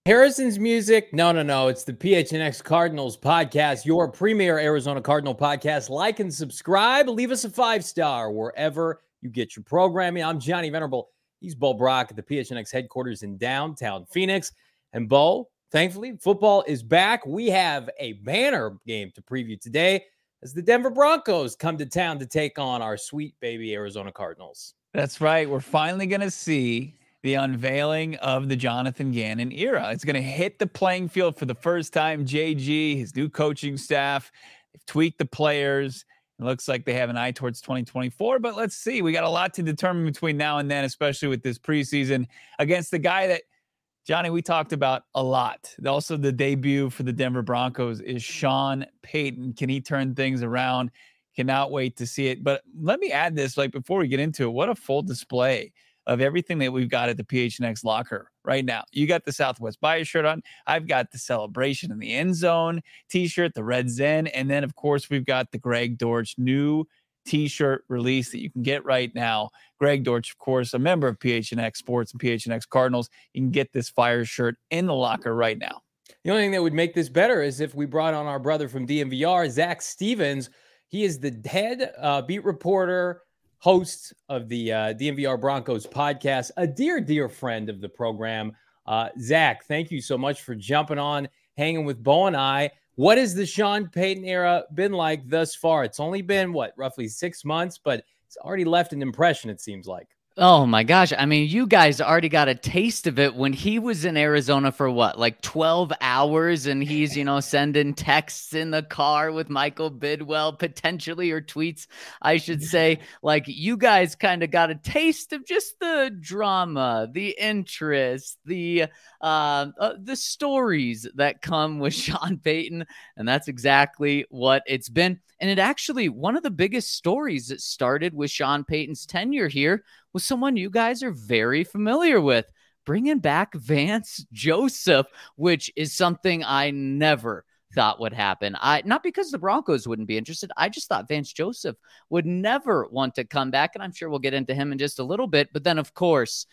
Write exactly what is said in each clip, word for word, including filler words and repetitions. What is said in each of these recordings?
Harrison's music? No, no, no. It's the P H N X Cardinals podcast, your premier Arizona Cardinal podcast. Like and subscribe. Leave us a five-star wherever you get your programming. I'm Johnny Venerable. He's Bo Brock at the P H N X headquarters in downtown Phoenix. And Bo, thankfully, football is back. We have a banner game to preview today as the Denver Broncos come to town to take on our sweet baby Arizona Cardinals. That's right. We're finally going to see the unveiling of the Jonathan Gannon era. It's going to hit the playing field for the first time. J G, his new coaching staff, they've tweaked the players. It looks like they have an eye towards twenty twenty-four, but let's see. We got a lot to determine between now and then, especially with this preseason against the guy that, Johnny, we talked about a lot. Also, the debut for the Denver Broncos is Sean Payton. Can he turn things around? Cannot wait to see it. But let me add this, like, before we get into it, what a full display of everything that we've got at the P H N X locker right now. You got the Southwest Bias shirt on. I've got the Celebration in the End Zone t-shirt, the Red Zen. And then, of course, we've got the Greg Dortch new t-shirt release that you can get right now. Greg Dortch, of course, a member of P H N X Sports and P H N X Cardinals. You can get this Fire shirt in the locker right now. The only thing that would make this better is if we brought on our brother from D M V R, Zach Stevens. He is the head uh, beat reporter, host of the uh, D M V R Broncos podcast, a dear, dear friend of the program. Uh, Zach, thank you so much for jumping on, hanging with Bo and I. What has the Sean Payton era been like thus far? It's only been, what, roughly six months, but it's already left an impression, it seems like. Oh my gosh. I mean, you guys already got a taste of it when he was in Arizona for what, like twelve hours, and he's, you know, sending texts in the car with Michael Bidwell, potentially, or tweets, I should say. Like, you guys kind of got a taste of just the drama, the interest, the uh, uh, the stories that come with Sean Payton, and that's exactly what it's been. And it actually, one of the biggest stories that started with Sean Payton's tenure here was someone you guys are very familiar with, bringing back Vance Joseph, which is something I never thought would happen. I not because the Broncos wouldn't be interested. I just thought Vance Joseph would never want to come back, and I'm sure we'll get into him in just a little bit. But then, of course,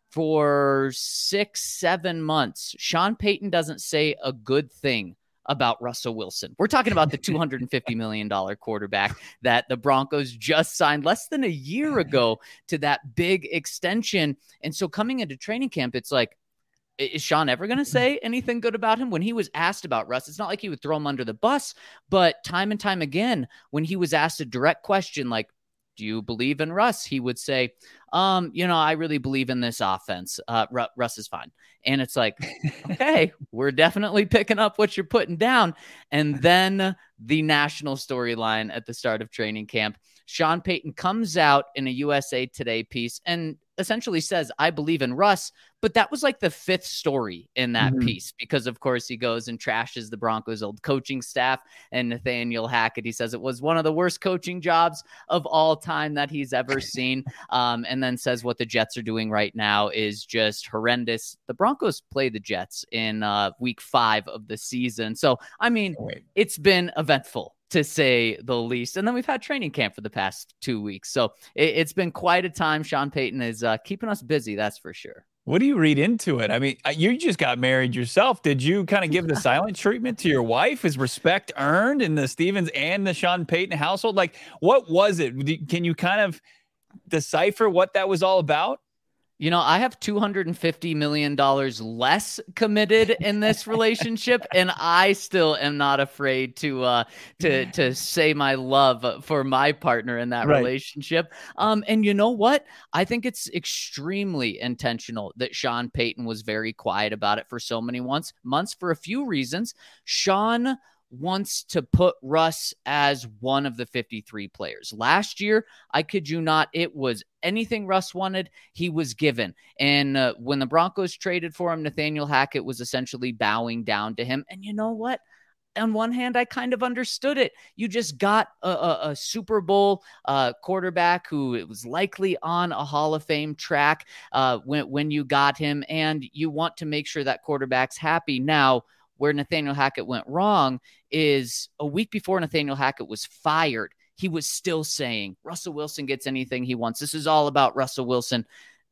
for six, seven months, Sean Payton doesn't say a good thing about Russell Wilson. We're talking about the two hundred fifty million dollars quarterback that the Broncos just signed less than a year ago to that big extension. And so coming into training camp, it's like, is Sean ever going to say anything good about him? When he was asked about Russ, it's not like he would throw him under the bus, but time and time again, when he was asked a direct question like, do you believe in Russ? He would say, um, you know, I really believe in this offense. Uh, Ru- Russ is fine. And it's like, okay, we're definitely picking up what you're putting down. And then the national storyline at the start of training camp, Sean Payton comes out in a U S A Today piece and essentially says, I believe in Russ. But that was like the fifth story in that mm-hmm. piece, because of course he goes and trashes the Broncos' old coaching staff and Nathaniel Hackett. He says it was one of the worst coaching jobs of all time that he's ever seen. Um, and then says what the Jets are doing right now is just horrendous. The Broncos play the Jets in uh, week five of the season. So, I mean, it's been eventful, to say the least. And then we've had training camp for the past two weeks. So it, it's been quite a time. Sean Payton is uh, keeping us busy, that's for sure. What do you read into it? I mean, you just got married yourself. Did you kind of give the silent treatment to your wife? Is respect earned in the Stevens and the Sean Payton household? Like, what was it? Can you kind of decipher what that was all about? You know, I have two hundred fifty million dollars less committed in this relationship, and I still am not afraid to uh, to to say my love for my partner in that right. relationship. Um, and you know what? I think it's extremely intentional that Sean Payton was very quiet about it for so many months, months for a few reasons. Sean wants to put Russ as one of the fifty-three players. Last year, I kid you not, it was anything Russ wanted, he was given. And uh, when the Broncos traded for him, Nathaniel Hackett was essentially bowing down to him. And you know what? On one hand, I kind of understood it. You just got a, a, a Super Bowl uh, quarterback who it was likely on a Hall of Fame track uh, when, when you got him, and you want to make sure that quarterback's happy. Now, where Nathaniel Hackett went wrong is a week before Nathaniel Hackett was fired, he was still saying Russell Wilson gets anything he wants. This is all about Russell Wilson.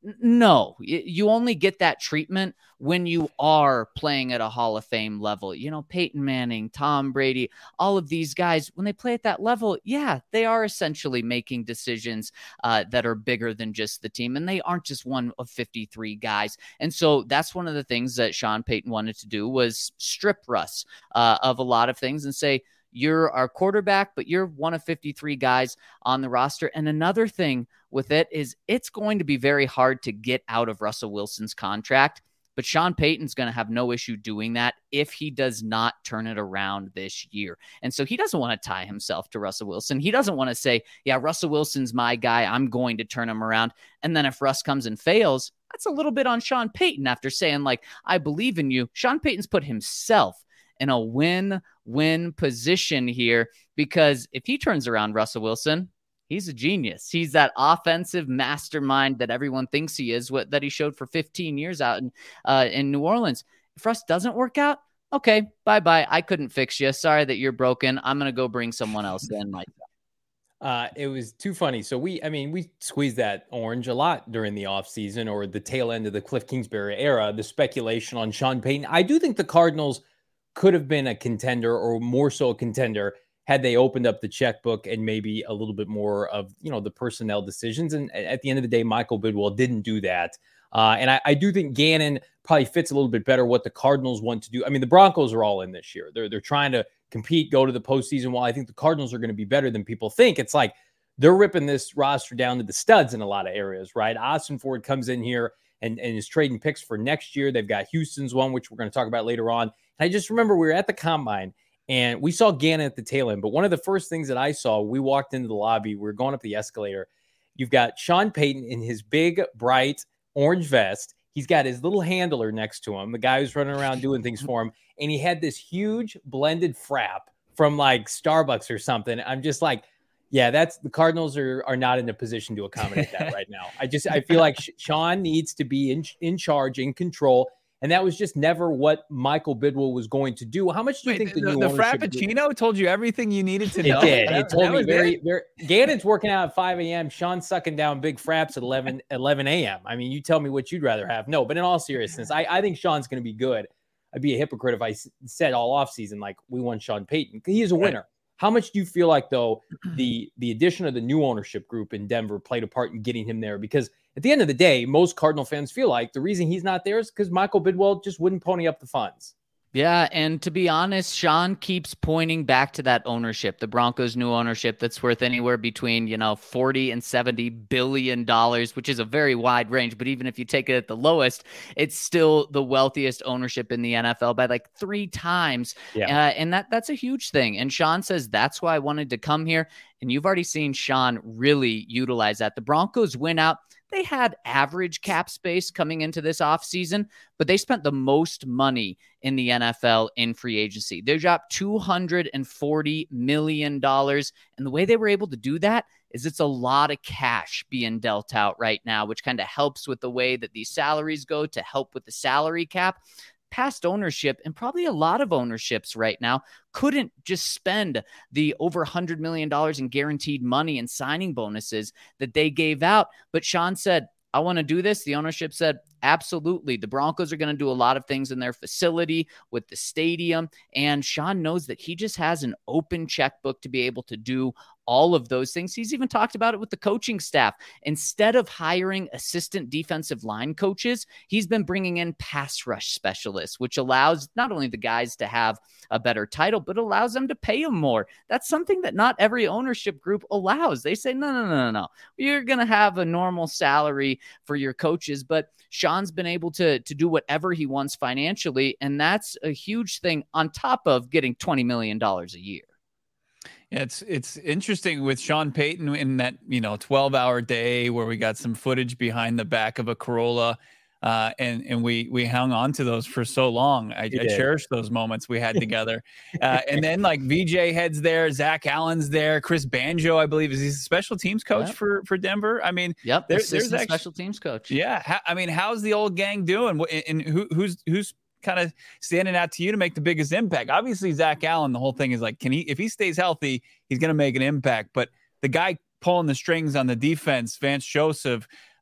No, you only get that treatment when you are playing at a Hall of Fame level. You know, Peyton Manning, Tom Brady, all of these guys, when they play at that level, yeah, they are essentially making decisions uh, that are bigger than just the team. And they aren't just one of fifty-three guys. And so that's one of the things that Sean Payton wanted to do, was strip Russ uh, of a lot of things and say, you're our quarterback, but you're one of fifty-three guys on the roster. And another thing with it is it's going to be very hard to get out of Russell Wilson's contract, but Sean Payton's going to have no issue doing that if he does not turn it around this year. And so he doesn't want to tie himself to Russell Wilson. He doesn't want to say, yeah, Russell Wilson's my guy, I'm going to turn him around. And then if Russ comes and fails, that's a little bit on Sean Payton after saying, like, I believe in you. Sean Payton's put himself in a win-win position here, because if he turns around Russell Wilson, he's a genius. He's that offensive mastermind that everyone thinks he is, what that he showed for fifteen years out in uh, in New Orleans. If Russ doesn't work out, okay, bye-bye. I couldn't fix you. Sorry that you're broken. I'm going to go bring someone else in. Like Uh, it was too funny. So we, I mean, we squeezed that orange a lot during the offseason, or the tail end of the Cliff Kingsbury era, the speculation on Sean Payton. I do think the Cardinals could have been a contender, or more so a contender, had they opened up the checkbook and maybe a little bit more of, you know, the personnel decisions. And at the end of the day, Michael Bidwell didn't do that. Uh, and I, I do think Gannon probably fits a little bit better what the Cardinals want to do. I mean, the Broncos are all in this year. They're, they're trying to compete, go to the postseason. While I think the Cardinals are going to be better than people think, it's like they're ripping this roster down to the studs in a lot of areas, right? Austin Ford comes in here and, and is trading picks for next year. They've got Houston's one, which we're going to talk about later on. And I just remember we were at the Combine and we saw Gannon at the tail end. But one of the first things that I saw, we walked into the lobby, we were going up the escalator. You've got Sean Payton in his big, bright orange vest. He's got his little handler next to him, the guy who's running around doing things for him. And he had this huge blended frap from like Starbucks or something. I'm just like, yeah, that's the Cardinals are are not in a position to accommodate that right now. I just I feel like Sean needs to be in in charge, in control, and that was just never what Michael Bidwell was going to do. How much do you Wait, think the, the new the Frappuccino did? Told you everything you needed to know? It did. It told me very, very. Gannon's working out at five a.m. Sean's sucking down big fraps at eleven a.m. I mean, you tell me what you'd rather have. No, but in all seriousness, I, I think Sean's going to be good. I'd be a hypocrite if I said all offseason like we want Sean Payton. He is a winner. Right. How much do you feel like, though, the the addition of the new ownership group in Denver played a part in getting him there? Because at the end of the day, most Cardinal fans feel like the reason he's not there is because Michael Bidwell just wouldn't pony up the funds. Yeah, and to be honest, Sean keeps pointing back to that ownership, the Broncos' new ownership that's worth anywhere between, you know, forty and seventy billion dollars, which is a very wide range. But even if you take it at the lowest, it's still the wealthiest ownership in the N F L by like three times. Yeah. Uh, and that that's a huge thing. And Sean says, that's why I wanted to come here. And you've already seen Sean really utilize that. The Broncos went out. They had average cap space coming into this offseason, but they spent the most money in the N F L in free agency. They dropped two hundred forty million dollars. And the way they were able to do that is it's a lot of cash being dealt out right now, which kind of helps with the way that these salaries go to help with the salary cap. Past ownership, and probably a lot of ownerships right now, couldn't just spend the over one hundred million dollars in guaranteed money and signing bonuses that they gave out. But Sean said, I want to do this. The ownership said, absolutely. The Broncos are going to do a lot of things in their facility with the stadium. And Sean knows that he just has an open checkbook to be able to do all of those things. He's even talked about it with the coaching staff. Instead of hiring assistant defensive line coaches, he's been bringing in pass rush specialists, which allows not only the guys to have a better title, but allows them to pay them more. That's something that not every ownership group allows. They say, no, no, no, no, no. You're going to have a normal salary for your coaches, but Sean's been able to, to do whatever he wants financially, and that's a huge thing on top of getting twenty million dollars a year. Yeah, it's it's interesting with Sean Payton in that, you know, twelve hour day where we got some footage behind the back of a Corolla, uh, and and we we hung on to those for so long. I, I cherish those moments we had together. Uh, and then like V J heads there, Zach Allen's there, Chris Banjo, I believe, is he a special teams coach yep. for for Denver? I mean, yep, there, there's a special teams coach. Yeah, how, I mean, how's the old gang doing? And, and who who's who's kind of standing out to you to make the biggest impact? Obviously, Zach Allen, the whole thing is like, can he, if he stays healthy, he's going to make an impact. But the guy pulling the strings on the defense, Vance Joseph,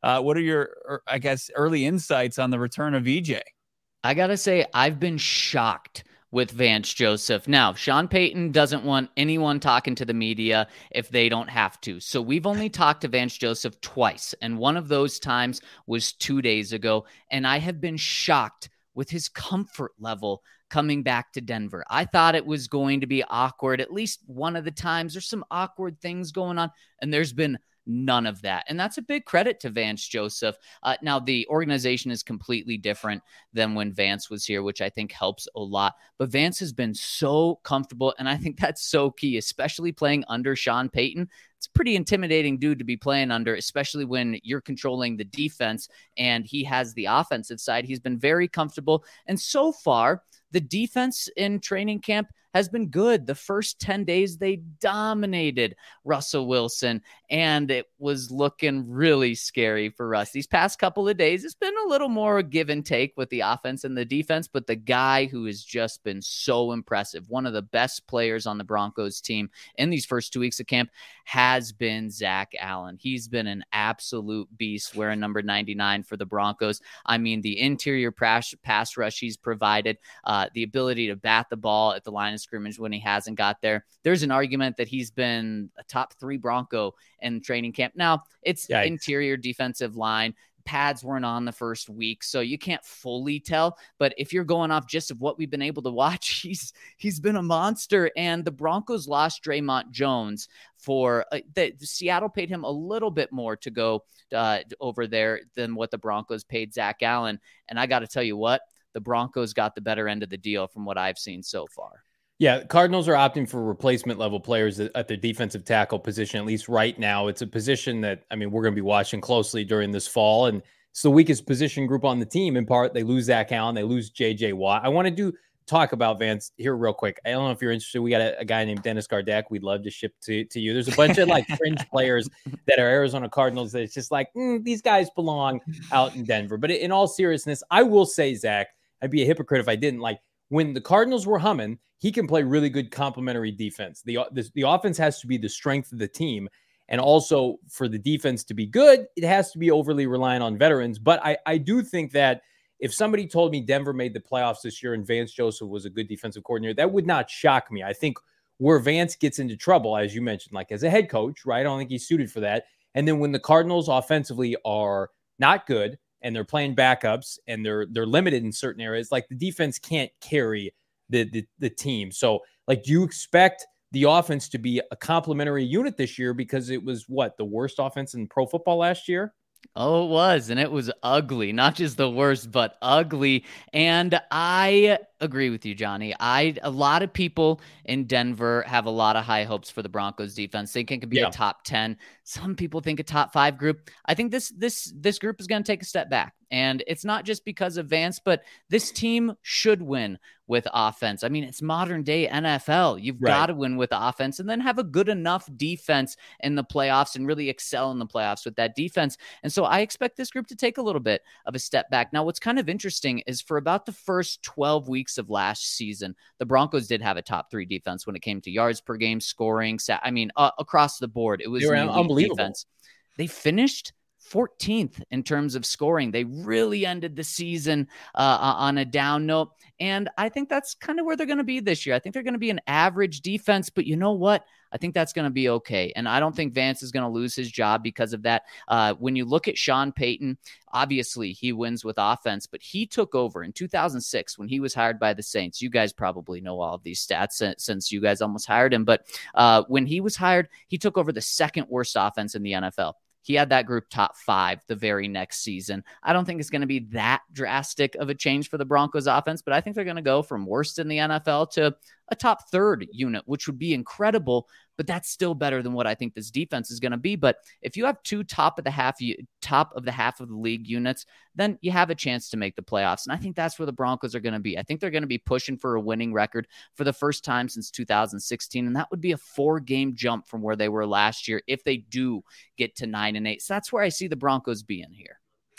Uh, what are your, I guess, early insights on the return of E J? I got to say, I've been shocked with Vance Joseph. Now, Sean Payton doesn't want anyone talking to the media if they don't have to. So we've only talked to Vance Joseph twice, and one of those times was two days ago, and I have been shocked with his comfort level coming back to Denver. I thought it was going to be awkward. At least one of the times there's some awkward things going on, and there's been none of that. And that's a big credit to Vance Joseph. Uh, now, the organization is completely different than when Vance was here, which I think helps a lot. But Vance has been so comfortable, and I think that's so key, especially playing under Sean Payton. It's a pretty intimidating dude to be playing under, especially when you're controlling the defense and he has the offensive side. He's been very comfortable. And so far, the defense in training camp has been good. The first ten days, they dominated Russell Wilson, and it was looking really scary for Russ. These past couple of days, it's been a little more give and take with the offense and the defense, but the guy who has just been so impressive, one of the best players on the Broncos team in these first two weeks of camp, has been Zach Allen. He's been an absolute beast wearing number ninety-nine for the Broncos. I mean, the interior pass, pass rush he's provided, uh, the ability to bat the ball at the line of scrimmage when he hasn't got there. There's an argument that he's been a top three Bronco in training camp. Now, it's Yikes. Interior defensive line. Pads weren't on the first week, so you can't fully tell. But if you're going off just of what we've been able to watch, he's he's been a monster. And the Broncos lost Draymond Jones for uh, the, the Seattle paid him a little bit more to go uh, over there than what the Broncos paid Zach Allen. And I got to tell you what, the Broncos got the better end of the deal from what I've seen so far. Yeah, Cardinals are opting for replacement level players at their defensive tackle position, at least right now. It's a position that, I mean, we're going to be watching closely during this fall, and it's the weakest position group on the team. In part, they lose Zach Allen, they lose J J Watt. I want to do talk about Vance here real quick. I don't know if you're interested. We got a, a guy named Dennis Gardeck we'd love to ship to, to you. There's a bunch of like fringe players that are Arizona Cardinals that it's just like, mm, these guys belong out in Denver. But in all seriousness, I will say, Zach, I'd be a hypocrite if I didn't. Like, when the Cardinals were humming, he can play really good complementary defense. The, the, the offense has to be the strength of the team. And also for the defense to be good, it has to be overly reliant on veterans. But I, I do think that if somebody told me Denver made the playoffs this year and Vance Joseph was a good defensive coordinator, that would not shock me. I think where Vance gets into trouble, as you mentioned, like as a head coach, right? I don't think he's suited for that. And then when the Cardinals offensively are not good and they're playing backups and they're they're limited in certain areas, like the defense can't carry the, the, the team. So, like, do you expect the offense to be a complementary unit this year? Because it was, what, the worst offense in pro football last year? Oh, it was. And it was ugly. Not just the worst, but ugly. And I agree with you, Johnny. I a lot of people in Denver have a lot of high hopes for the Broncos defense. Think it could be yeah. a top ten. Some people think a top five group. I think this this this group is going to take a step back. And it's not just because of Vance, but this team should win with offense. I mean, it's modern day N F L. You've right. got to win with offense and then have a good enough defense in the playoffs and really excel in the playoffs with that defense. And so I expect this group to take a little bit of a step back. Now, what's kind of interesting is for about the first twelve weeks of last season, the Broncos did have a top three defense when it came to yards per game, scoring. I mean, uh, across the board, it was an unbelievable defense. They finished fourteenth in terms of scoring. They really ended the season uh, on a down note. And I think that's kind of where they're going to be this year. I think they're going to be an average defense, but you know what? I think that's going to be okay. And I don't think Vance is going to lose his job because of that. Uh, when you look at Sean Payton, obviously he wins with offense, but he took over in two thousand six when he was hired by the Saints. You guys probably know all of these stats since you guys almost hired him. But uh, when he was hired, he took over the second worst offense in the N F L. He had that group top five the very next season. I don't think it's going to be that drastic of a change for the Broncos offense, but I think they're going to go from worst in the N F L to a top third unit, which would be incredible, but that's still better than what I think this defense is going to be. But if you have two top of the half, top of the half of the league units, then you have a chance to make the playoffs. And I think that's where the Broncos are going to be. I think they're going to be pushing for a winning record for the first time since two thousand sixteen. And that would be a four game jump from where they were last year if they do get to nine and eight. So that's where I see the Broncos being here.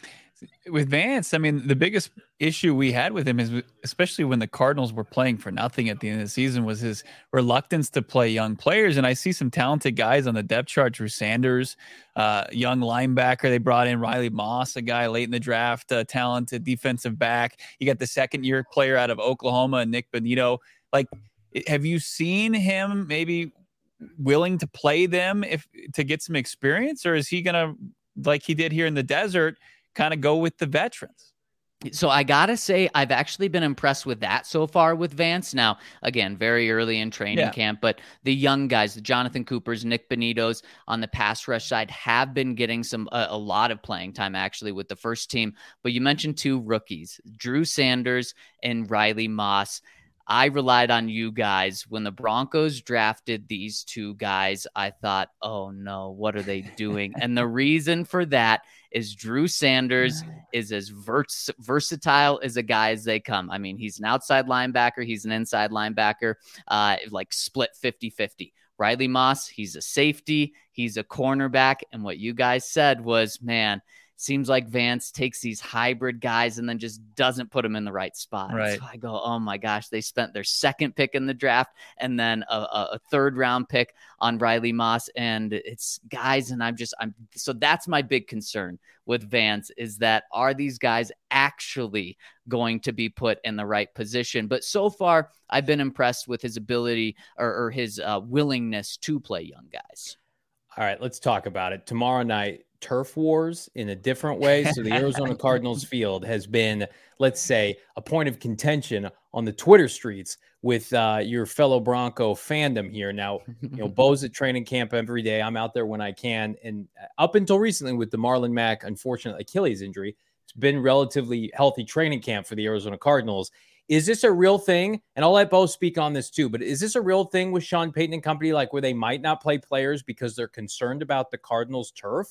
With Vance, I mean, the biggest issue we had with him is, especially when the Cardinals were playing for nothing at the end of the season, was his reluctance to play young players. And I see some talented guys on the depth chart. Drew Sanders, uh, young linebacker. They brought in Riley Moss, a guy late in the draft, uh, talented defensive back. You got the second year player out of Oklahoma, Nick Bonito. Like, have you seen him maybe willing to play them if to get some experience, or is he going to, like he did here in the desert, kind of go with the veterans? So I got to say, I've actually been impressed with that so far with Vance. Now, again, very early in training yeah. camp, but the young guys, the Jonathan Coopers, Nick Bonitos on the pass rush side have been getting some a, a lot of playing time actually with the first team. But you mentioned two rookies, Drew Sanders and Riley Moss. I relied on you guys. When the Broncos drafted these two guys, I thought, oh no, what are they doing? And the reason for that is Drew Sanders is as vers- versatile as a guy as they come. I mean, he's an outside linebacker. He's an inside linebacker, uh, like split fifty-fifty. Riley Moss, he's a safety. He's a cornerback. And what you guys said was, man, seems like Vance takes these hybrid guys and then just doesn't put them in the right spot. Right. So I go, oh my gosh, they spent their second pick in the draft and then a, a, a third round pick on Riley Moss. And it's guys. And I'm just, I'm, so that's my big concern with Vance, is that are these guys actually going to be put in the right position? But so far I've been impressed with his ability or, or his uh, willingness to play young guys. All right, let's talk about it. Tomorrow night, turf wars in a different way. So the Arizona Cardinals field has been, let's say, a point of contention on the Twitter streets with uh, your fellow Bronco fandom here. Now, you know, Bo's at training camp every day. I'm out there when I can. And up until recently with the Marlon Mack unfortunate Achilles injury, it's been relatively healthy training camp for the Arizona Cardinals. Is this a real thing? And I'll let Bo speak on this too, but is this a real thing with Sean Payton and company, like where they might not play players because they're concerned about the Cardinals turf?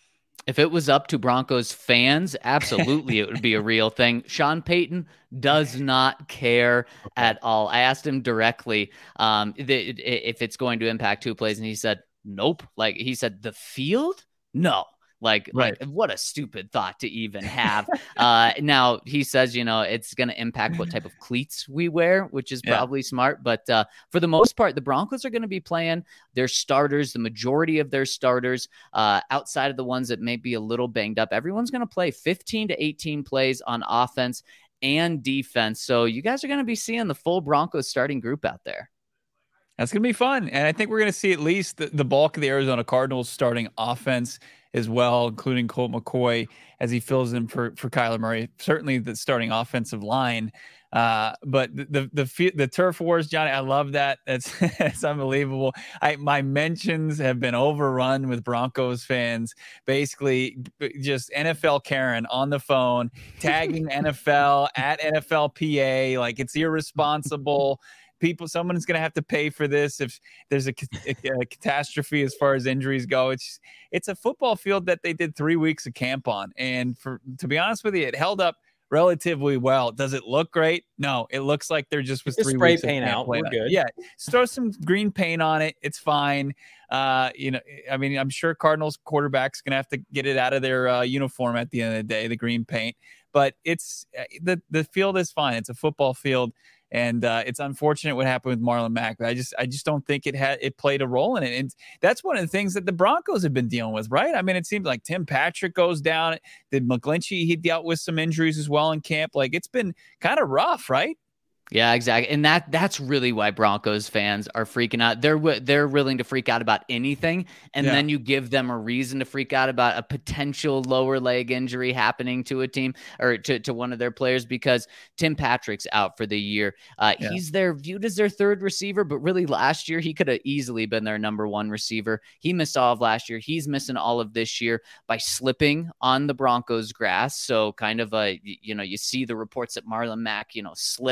If it was up to Broncos fans, absolutely it would be a real thing. Sean Payton does not care okay. at all. I asked him directly um, if it's going to impact two plays, and he said, nope. Like he said, the field? No. Like, right. like, what a stupid thought to even have. uh, now, he says, you know, it's going to impact what type of cleats we wear, which is yeah. probably smart. But uh, for the most part, the Broncos are going to be playing their starters, the majority of their starters, uh, outside of the ones that may be a little banged up. Everyone's going to play fifteen to eighteen plays on offense and defense. So you guys are going to be seeing the full Broncos starting group out there. That's going to be fun. And I think we're going to see at least the, the bulk of the Arizona Cardinals starting offense as well, including Colt McCoy as he fills in for, for Kyler Murray, certainly the starting offensive line. Uh, but the, the, the, the turf wars, Johnny, I love that. That's, that's unbelievable. I, my mentions have been overrun with Broncos fans, basically just N F L Karen on the phone, tagging N F L at N F L P A. Like it's irresponsible. People, someone's going to have to pay for this if there's a, a, a catastrophe as far as injuries go. It's it's a football field that they did three weeks of camp on, and for to be honest with you, it held up relatively well. Does it look great? No, it looks like there just was just three spray weeks paint of out. We're good. Yeah, just throw some green paint on it. It's fine. Uh, you know, I mean, I'm sure Cardinals quarterback's going to have to get it out of their uh, uniform at the end of the day, the green paint. But it's the the field is fine. It's a football field. And uh, it's unfortunate what happened with Marlon Mack. But I just, I just don't think it had it played a role in it. And that's one of the things that the Broncos have been dealing with, right? I mean, it seems like Tim Patrick goes down. Did McGlinchey? He dealt with some injuries as well in camp. Like it's been kind of rough, right? Yeah, exactly. And that that's really why Broncos fans are freaking out. They're they're willing to freak out about anything. And yeah. then you give them a reason to freak out about a potential lower leg injury happening to a team or to, to one of their players because Tim Patrick's out for the year. Uh, yeah. He's their viewed as their third receiver, but really last year he could have easily been their number one receiver. He missed all of last year. He's missing all of this year by slipping on the Broncos grass. So kind of a, you know, you see the reports that Marlon Mack, you know, slipped a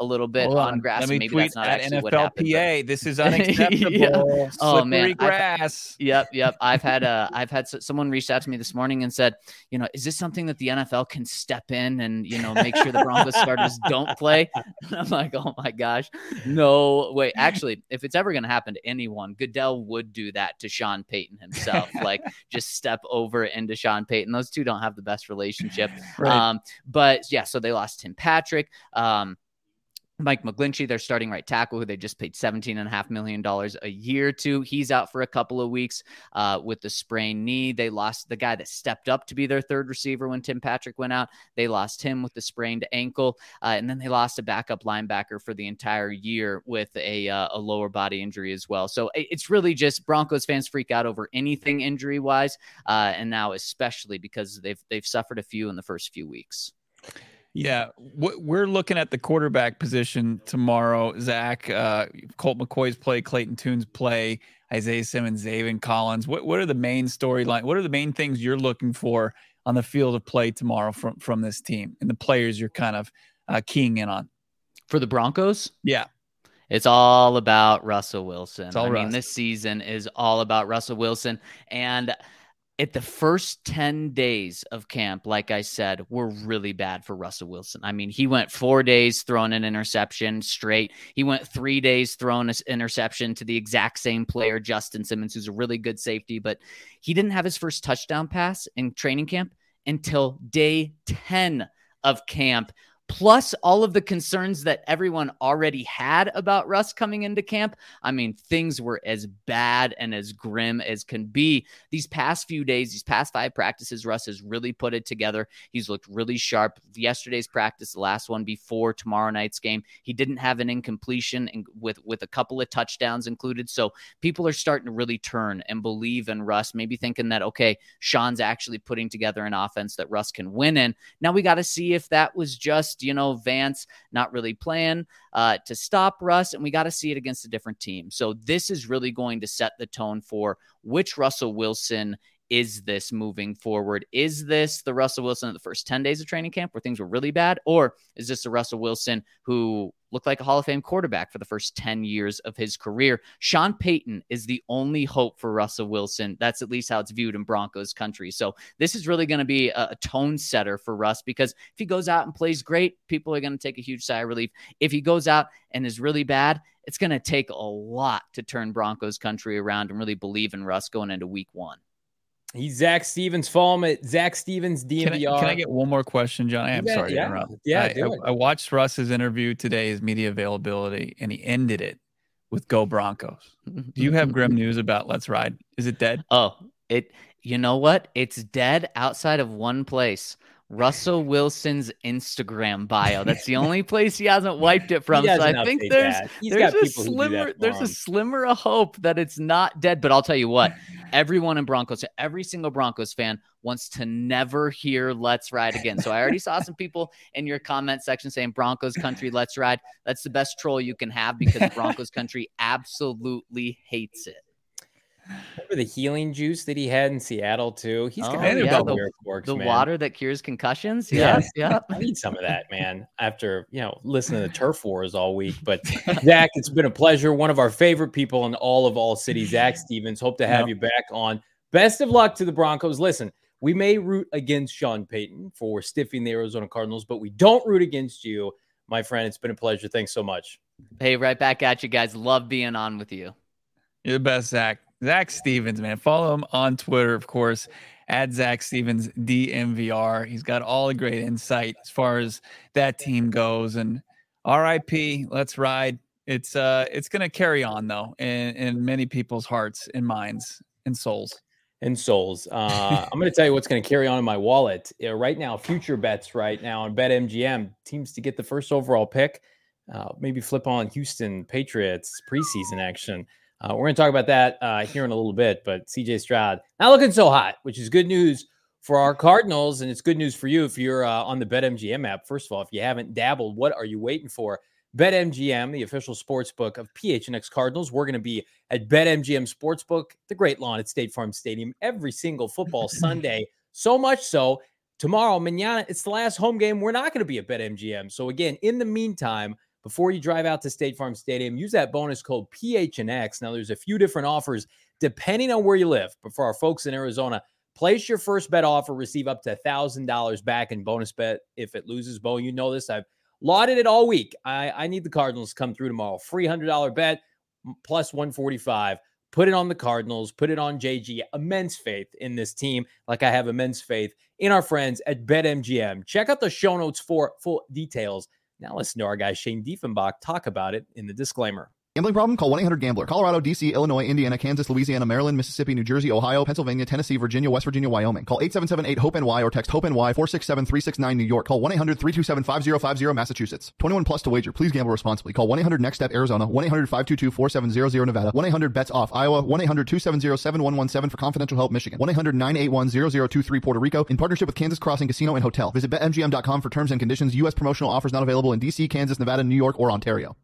a little bit Hold on on. grass. Let me And maybe tweet that's not at actually what N F L happened. P A. But This is unacceptable. Yeah. Slippery Oh, man. grass. I've, yep, yep. I've had a, I've had s- someone reached out to me this morning and said, you know, is this something that the N F L can step in and, you know, make sure the Broncos starters don't play? And I'm like, oh my gosh, no way. Actually, if it's ever going to happen to anyone, Goodell would do that to Sean Payton himself. Like, just step over into Sean Payton. Those two don't have the best relationship. Right. Um, but yeah, so they lost Tim Patrick. Um, Mike McGlinchey, their starting right tackle, who they just paid seventeen point five million dollars a year to. He's out for a couple of weeks uh, with the sprained knee. They lost the guy that stepped up to be their third receiver when Tim Patrick went out. They lost him with the sprained ankle. Uh, and then they lost a backup linebacker for the entire year with a, uh, a lower body injury as well. So it's really just Broncos fans freak out over anything injury-wise, uh, and now especially because they've they've suffered a few in the first few weeks. Yeah, we're looking at the quarterback position tomorrow. Zach, uh, Colt McCoy's play, Clayton Tune's play, Isaiah Simmons, Zaven Collins. What what are the main storyline? What are the main things you're looking for on the field of play tomorrow from from this team and the players you're kind of uh, keying in on for the Broncos? Yeah. It's all about Russell Wilson. It's all I Russ. mean, this season is all about Russell Wilson. And at the first ten days of camp, like I said, were really bad for Russell Wilson. I mean, he went four days throwing an interception straight. He went three days throwing an interception to the exact same player, Justin Simmons, who's a really good safety. But he didn't have his first touchdown pass in training camp until day ten of camp. Plus all of the concerns that everyone already had about Russ coming into camp. I mean, things were as bad and as grim as can be. These past few days, these past five practices, Russ has really put it together. He's looked really sharp. Yesterday's practice, the last one before tomorrow night's game, he didn't have an incompletion and with, with a couple of touchdowns included. So people are starting to really turn and believe in Russ, maybe thinking that, okay, Sean's actually putting together an offense that Russ can win in. Now we got to see if that was just, you know, Vance not really playing uh, to stop Russ, and we got to see it against a different team. So this is really going to set the tone for which Russell Wilson is this moving forward. Is this the Russell Wilson of the first ten days of training camp where things were really bad? Or is this the Russell Wilson who looked like a Hall of Fame quarterback for the first ten years of his career? Sean Payton is the only hope for Russell Wilson. That's at least how it's viewed in Broncos country. So this is really going to be a, a tone setter for Russ, because if he goes out and plays great, people are going to take a huge sigh of relief. If he goes out and is really bad, it's going to take a lot to turn Broncos country around and really believe in Russ going into week one. He's Zach Stevens. Follow him at Zach Stevens D M V R. Can I, can I get one more question, John? I am yeah, sorry yeah, to interrupt. Yeah, I, I, I watched Russ's interview today, his media availability, and he ended it with "Go Broncos." Do you have grim news about Let's Ride? Is it dead? Oh, it. You know what? It's dead outside of one place. Russell Wilson's Instagram bio. That's the only place he hasn't wiped it from. So I think there's there's a slimmer there's him. a slimmer of hope that it's not dead. But I'll tell you what, everyone in Broncos, every single Broncos fan wants to never hear "Let's Ride" again. So I already saw some people in your comment section saying Broncos country, let's ride. That's the best troll you can have, because Broncos country absolutely hates it. Remember the healing juice that he had in Seattle too? He's oh, got yeah, the, where it works, the man. water that cures concussions. Yes, yeah. I need some of that, man. After you know listening to Turf Wars all week, but Zach, it's been a pleasure. One of our favorite people in all of all cities, Zach Stevens. Hope to have yep. you back on. Best of luck to the Broncos. Listen, we may root against Sean Payton for stiffing the Arizona Cardinals, but we don't root against you, my friend. It's been a pleasure. Thanks so much. Hey, right back at you guys. Love being on with you. You're the best, Zach. Zach Stevens, man. Follow him on Twitter, of course, at Zach Stevens D M V R. He's got all the great insight as far as that team goes. And R I P, let's ride. It's uh, it's gonna carry on though, in, in many people's hearts and minds and souls. And souls. Uh, I'm going to tell you what's going to carry on in my wallet uh, right now. Future bets right now on BetMGM. Teams to get the first overall pick. Uh, maybe flip on Houston Patriots preseason action. Uh, we're going to talk about that uh, here in a little bit, but C J Stroud not looking so hot, which is good news for our Cardinals, and it's good news for you if you're uh, on the BetMGM app. First of all, if you haven't dabbled, what are you waiting for? BetMGM, the official sports book of P H N X Cardinals. We're going to be at BetMGM Sportsbook, the Great Lawn at State Farm Stadium, every single football Sunday. So much so, tomorrow, mañana, it's the last home game. We're not going to be at BetMGM. So again, in the meantime, before you drive out to State Farm Stadium, use that bonus code P H N X. Now, there's a few different offers depending on where you live. But for our folks in Arizona, place your first bet offer, receive up to one thousand dollars back in bonus bet if it loses. Bo, you know this. I've lauded it all week. I, I need the Cardinals to come through tomorrow. Free one hundred dollars bet plus one forty-five. Put it on the Cardinals. Put it on J G. Immense faith in this team, like I have immense faith in our friends at BetMGM. Check out the show notes for full details. Now listen to our guy Shane Diefenbach talk about it in the disclaimer. Gambling problem? Call one eight hundred gambler. Colorado, D C, Illinois, Indiana, Kansas, Louisiana, Maryland, Mississippi, New Jersey, Ohio, Pennsylvania, Tennessee, Virginia, West Virginia, Wyoming. Call eight seven seven eight hope N Y or text HOPE-NY four six seven three six nine New York. Call one eight hundred three two seven five zero five zero Massachusetts. twenty-one plus to wager. Please gamble responsibly. Call one eight hundred next step Arizona. one eight hundred five two two four seven zero zero Nevada. one eight hundred bets off Iowa. one eight hundred two seven zero seven one one seven for confidential help Michigan. one eight hundred nine eight one zero zero two three Puerto Rico in partnership with Kansas Crossing Casino and Hotel. Visit bet M G M dot com for terms and conditions. U S promotional offers not available in D C, Kansas, Nevada, New York, or Ontario.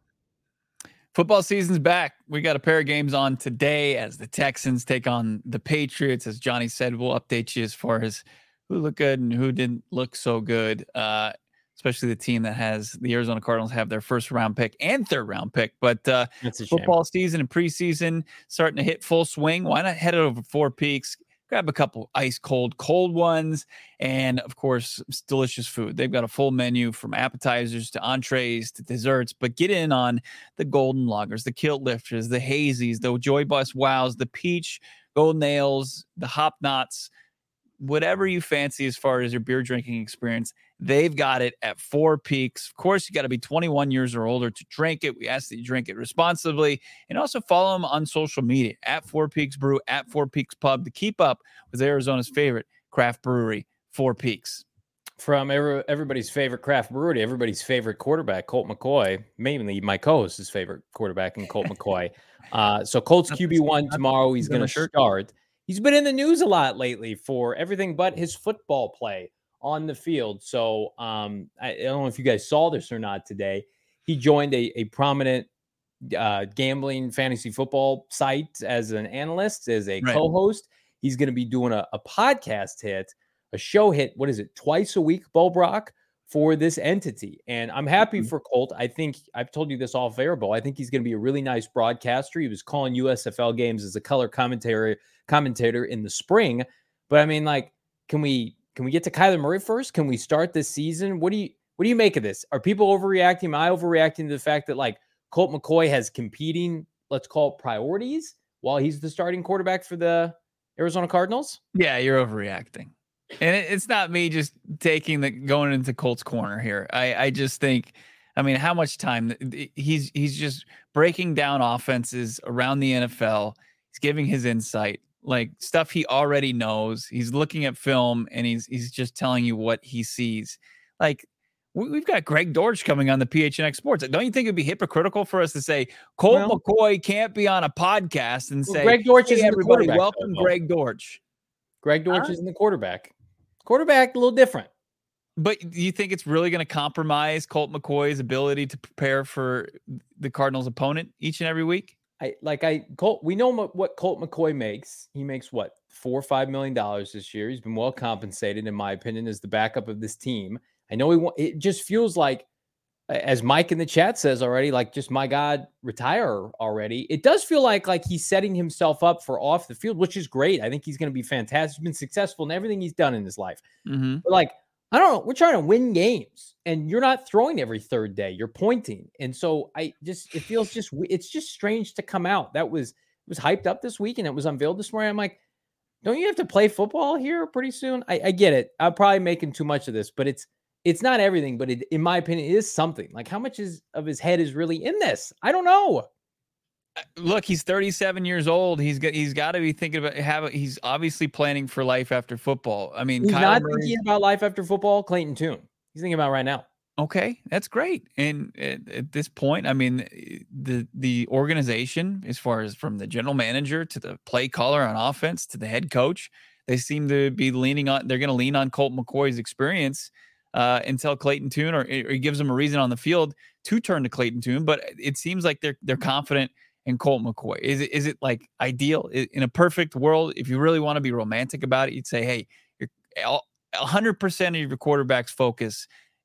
Football season's back. We got a pair of games on today as the Texans take on the Patriots. As Johnny said, we'll update you as far as who looked good and who didn't look so good, uh, especially the team that has the Arizona Cardinals have their first round pick and third round pick. But uh, football season and preseason starting to hit full swing. Why not head over Four Peaks? Grab a couple ice cold, cold ones, and of course, delicious food. They've got a full menu from appetizers to entrees to desserts, but get in on the golden lagers, the kilt lifters, the hazies, the Joy Bus wows, the peach golden ales, the hop knots, whatever you fancy as far as your beer drinking experience. They've got it at Four Peaks. Of course, you got to be twenty-one years or older to drink it. We ask that you drink it responsibly, and also follow them on social media at Four Peaks Brew, at Four Peaks Pub to keep up with Arizona's favorite craft brewery, Four Peaks. From every, everybody's favorite craft brewery, everybody's favorite quarterback, Colt McCoy, mainly my co-host's favorite quarterback in Colt McCoy. Uh, so Colt's Q B one tomorrow. He's going to start. He's been in the news a lot lately for everything but his football play on the field. So um, I, I don't know if you guys saw this or not today. He joined a, a prominent uh, gambling fantasy football site as an analyst, as a right. co-host. He's going to be doing a, a podcast hit, a show hit, what is it, twice a week, Bo Brock, for this entity. And I'm happy for Colt. I think I've told you this off air, Bo. I think he's going to be a really nice broadcaster. He was calling U S F L games as a color commentator commentator in the spring. But I mean, like, can we can we get to Kyler Murray first? Can we start this season? What do you what do you make of this? Are people overreacting? Am I overreacting to the fact that like Colt McCoy has competing, let's call it priorities, while he's the starting quarterback for the Arizona Cardinals? Yeah, you're overreacting. And it, it's not me just taking the going into Colt's corner here. I, I just think, I mean, how much time he's he's just breaking down offenses around the N F L. He's giving his insight, like stuff he already knows. He's looking at film and he's he's just telling you what he sees. Like we've got Greg Dortch coming on the P H N X Sports. Don't you think it'd be hypocritical for us to say Colt well, McCoy can't be on a podcast and well, say Greg Dortch hey, is everybody welcome though. Greg Dortch. Greg Dortch huh? is in the quarterback. Quarterback, a little different. But do you think it's really going to compromise Colt McCoy's ability to prepare for the Cardinals' opponent each and every week? I like I Colt. We know what Colt McCoy makes. He makes what four or five million dollars this year. He's been well compensated, in my opinion, as the backup of this team. I know he. Want, it just feels like, as Mike in the chat says already, like just my God, retire already. It does feel like like he's setting himself up for off the field, which is great. I think he's going to be fantastic. He's been successful in everything he's done in his life. Mm-hmm. But like, I don't know. We're trying to win games, and you're not throwing every third day. You're pointing, and so I just it feels just it's just strange to come out. That was it was hyped up this week, and it was unveiled this morning. I'm like, don't you have to play football here pretty soon? I, I get it. I'm probably making too much of this, but it's. It's not everything, but it, in my opinion, it is something. Like, how much is of his head is really in this? I don't know. Look, he's thirty-seven years old. He's got he's got to be thinking about have. He's obviously planning for life after football. I mean, he's Kyle not Murray, thinking about life after football. Clayton Tune. He's thinking about right now. Okay, that's great. And at, at this point, I mean, the the organization, as far as from the general manager to the play caller on offense to the head coach, they seem to be leaning on. They're going to lean on Colt McCoy's experience. Uh, until Clayton Tune or, or he gives them a reason on the field to turn to Clayton Tune, but it seems like they're they're confident in Colt McCoy. Is it is it like ideal in a perfect world? If you really want to be romantic about it, you'd say, hey, you're one hundred percent of your quarterback's focus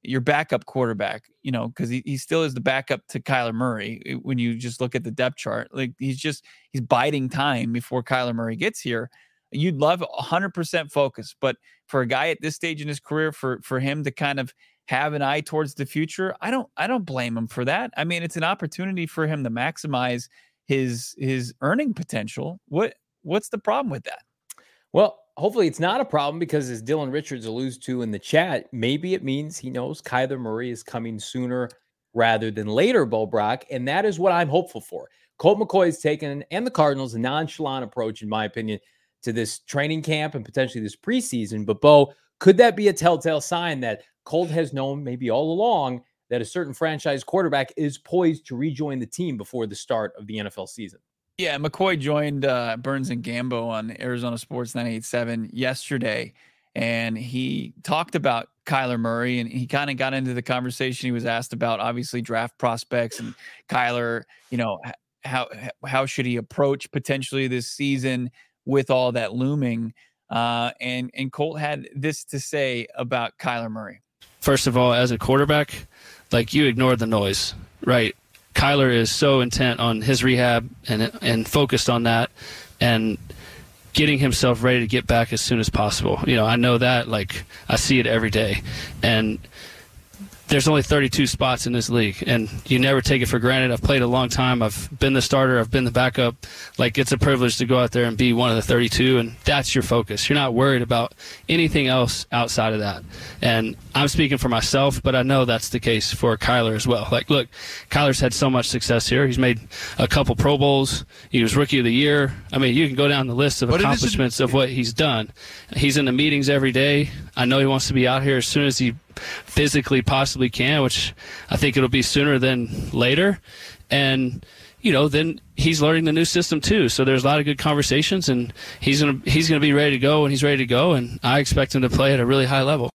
your backup quarterback, you know, because he, he still is the backup to Kyler Murray. When you just look at the depth chart, like he's just he's biding time before Kyler Murray gets here. You'd love one hundred percent focus, but for a guy at this stage in his career, for for him to kind of have an eye towards the future, I don't I don't blame him for that. I mean, it's an opportunity for him to maximize his his earning potential. What what's the problem with that? Well, hopefully it's not a problem because, as Dylan Richards alludes to in the chat, maybe it means he knows Kyler Murray is coming sooner rather than later, Bo Brock, and that is what I'm hopeful for. Colt McCoy has taken, and the Cardinals, a nonchalant approach, in my opinion, to this training camp and potentially this preseason. But, Bo, could that be a telltale sign that Colt has known maybe all along that a certain franchise quarterback is poised to rejoin the team before the start of the N F L season? Yeah, McCoy joined uh, Burns and Gambo on Arizona Sports nine eighty-seven yesterday, and he talked about Kyler Murray, and he kind of got into the conversation. He was asked about, obviously, draft prospects and Kyler, you know, how how should he approach potentially this season with all that looming. Uh, and, and Colt had this to say about Kyler Murray. First of all, as a quarterback, like, you ignore the noise, right? Kyler is so intent on his rehab and and focused on that and getting himself ready to get back as soon as possible. You know, I know that, like, I see it every day. And there's only thirty-two spots in this league, and you never take it for granted. I've played a long time. I've been the starter. I've been the backup. Like, it's a privilege to go out there and be one of the thirty-two, and that's your focus. You're not worried about anything else outside of that. And I'm speaking for myself, but I know that's the case for Kyler as well. Like, look, Kyler's had so much success here. He's made a couple Pro Bowls. He was Rookie of the Year. I mean, you can go down the list of what accomplishments of what he's done. He's in the meetings every day. I know he wants to be out here as soon as he physically possibly can, which I think it'll be sooner than later. And, you know, then he's learning the new system too. So there's a lot of good conversations, and he's going to, he's going to be ready to go when he's ready to go. And I expect him to play at a really high level.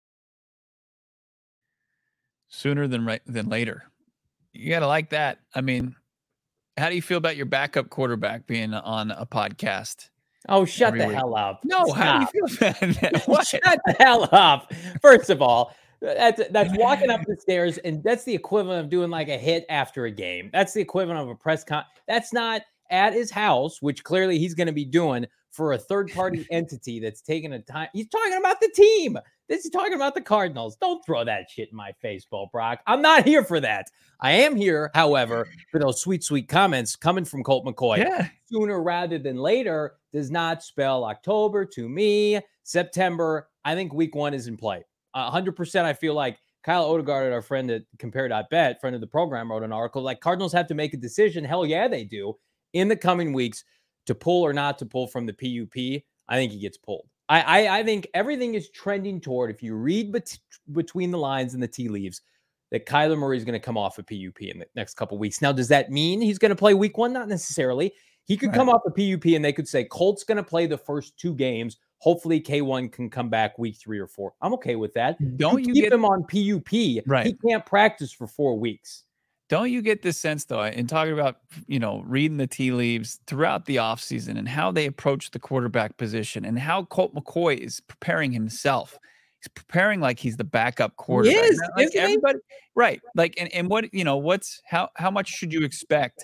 Sooner than right than later. You got to like that. I mean, how do you feel about your backup quarterback being on a podcast? Oh, shut the week? hell up. No, Stop. how do you feel about that? What? Shut the hell up. First of all, that's that's walking up the stairs, and that's the equivalent of doing like a hit after a game. That's the equivalent of a press con. That's not at his house, which clearly he's going to be doing for a third-party entity that's taking a time. He's talking about the team. This is talking about the Cardinals. Don't throw that shit in my face, Bo Brock. I'm not here for that. I am here, however, for those sweet, sweet comments coming from Colt McCoy. Yeah. Sooner rather than later does not spell October to me. September, I think week one is in play. Uh, one hundred percent I feel like Kyle Odegaard, our friend at Compare.bet, friend of the program, wrote an article like Cardinals have to make a decision. Hell yeah, they do in the coming weeks to pull or not to pull from the P U P. I think he gets pulled. I, I, I think everything is trending toward, if you read bet- between the lines and the tea leaves, that Kyler Murray is going to come off a P U P in the next couple of weeks. Now, does that mean he's going to play week one? Not necessarily. He could right. come off a P U P and they could say Colt's going to play the first two games. Hopefully K one can come back week three or four. I'm okay with that. Don't you, you keep get, him on P U P? Right. He can't practice for four weeks. Don't you get this sense, though, in talking about, you know, reading the tea leaves throughout the offseason and how they approach the quarterback position and how Colt McCoy is preparing himself? He's preparing like he's the backup quarterback. He is, like isn't everybody, he? Right. Like, and, and what, you know, what's, how, how much should you expect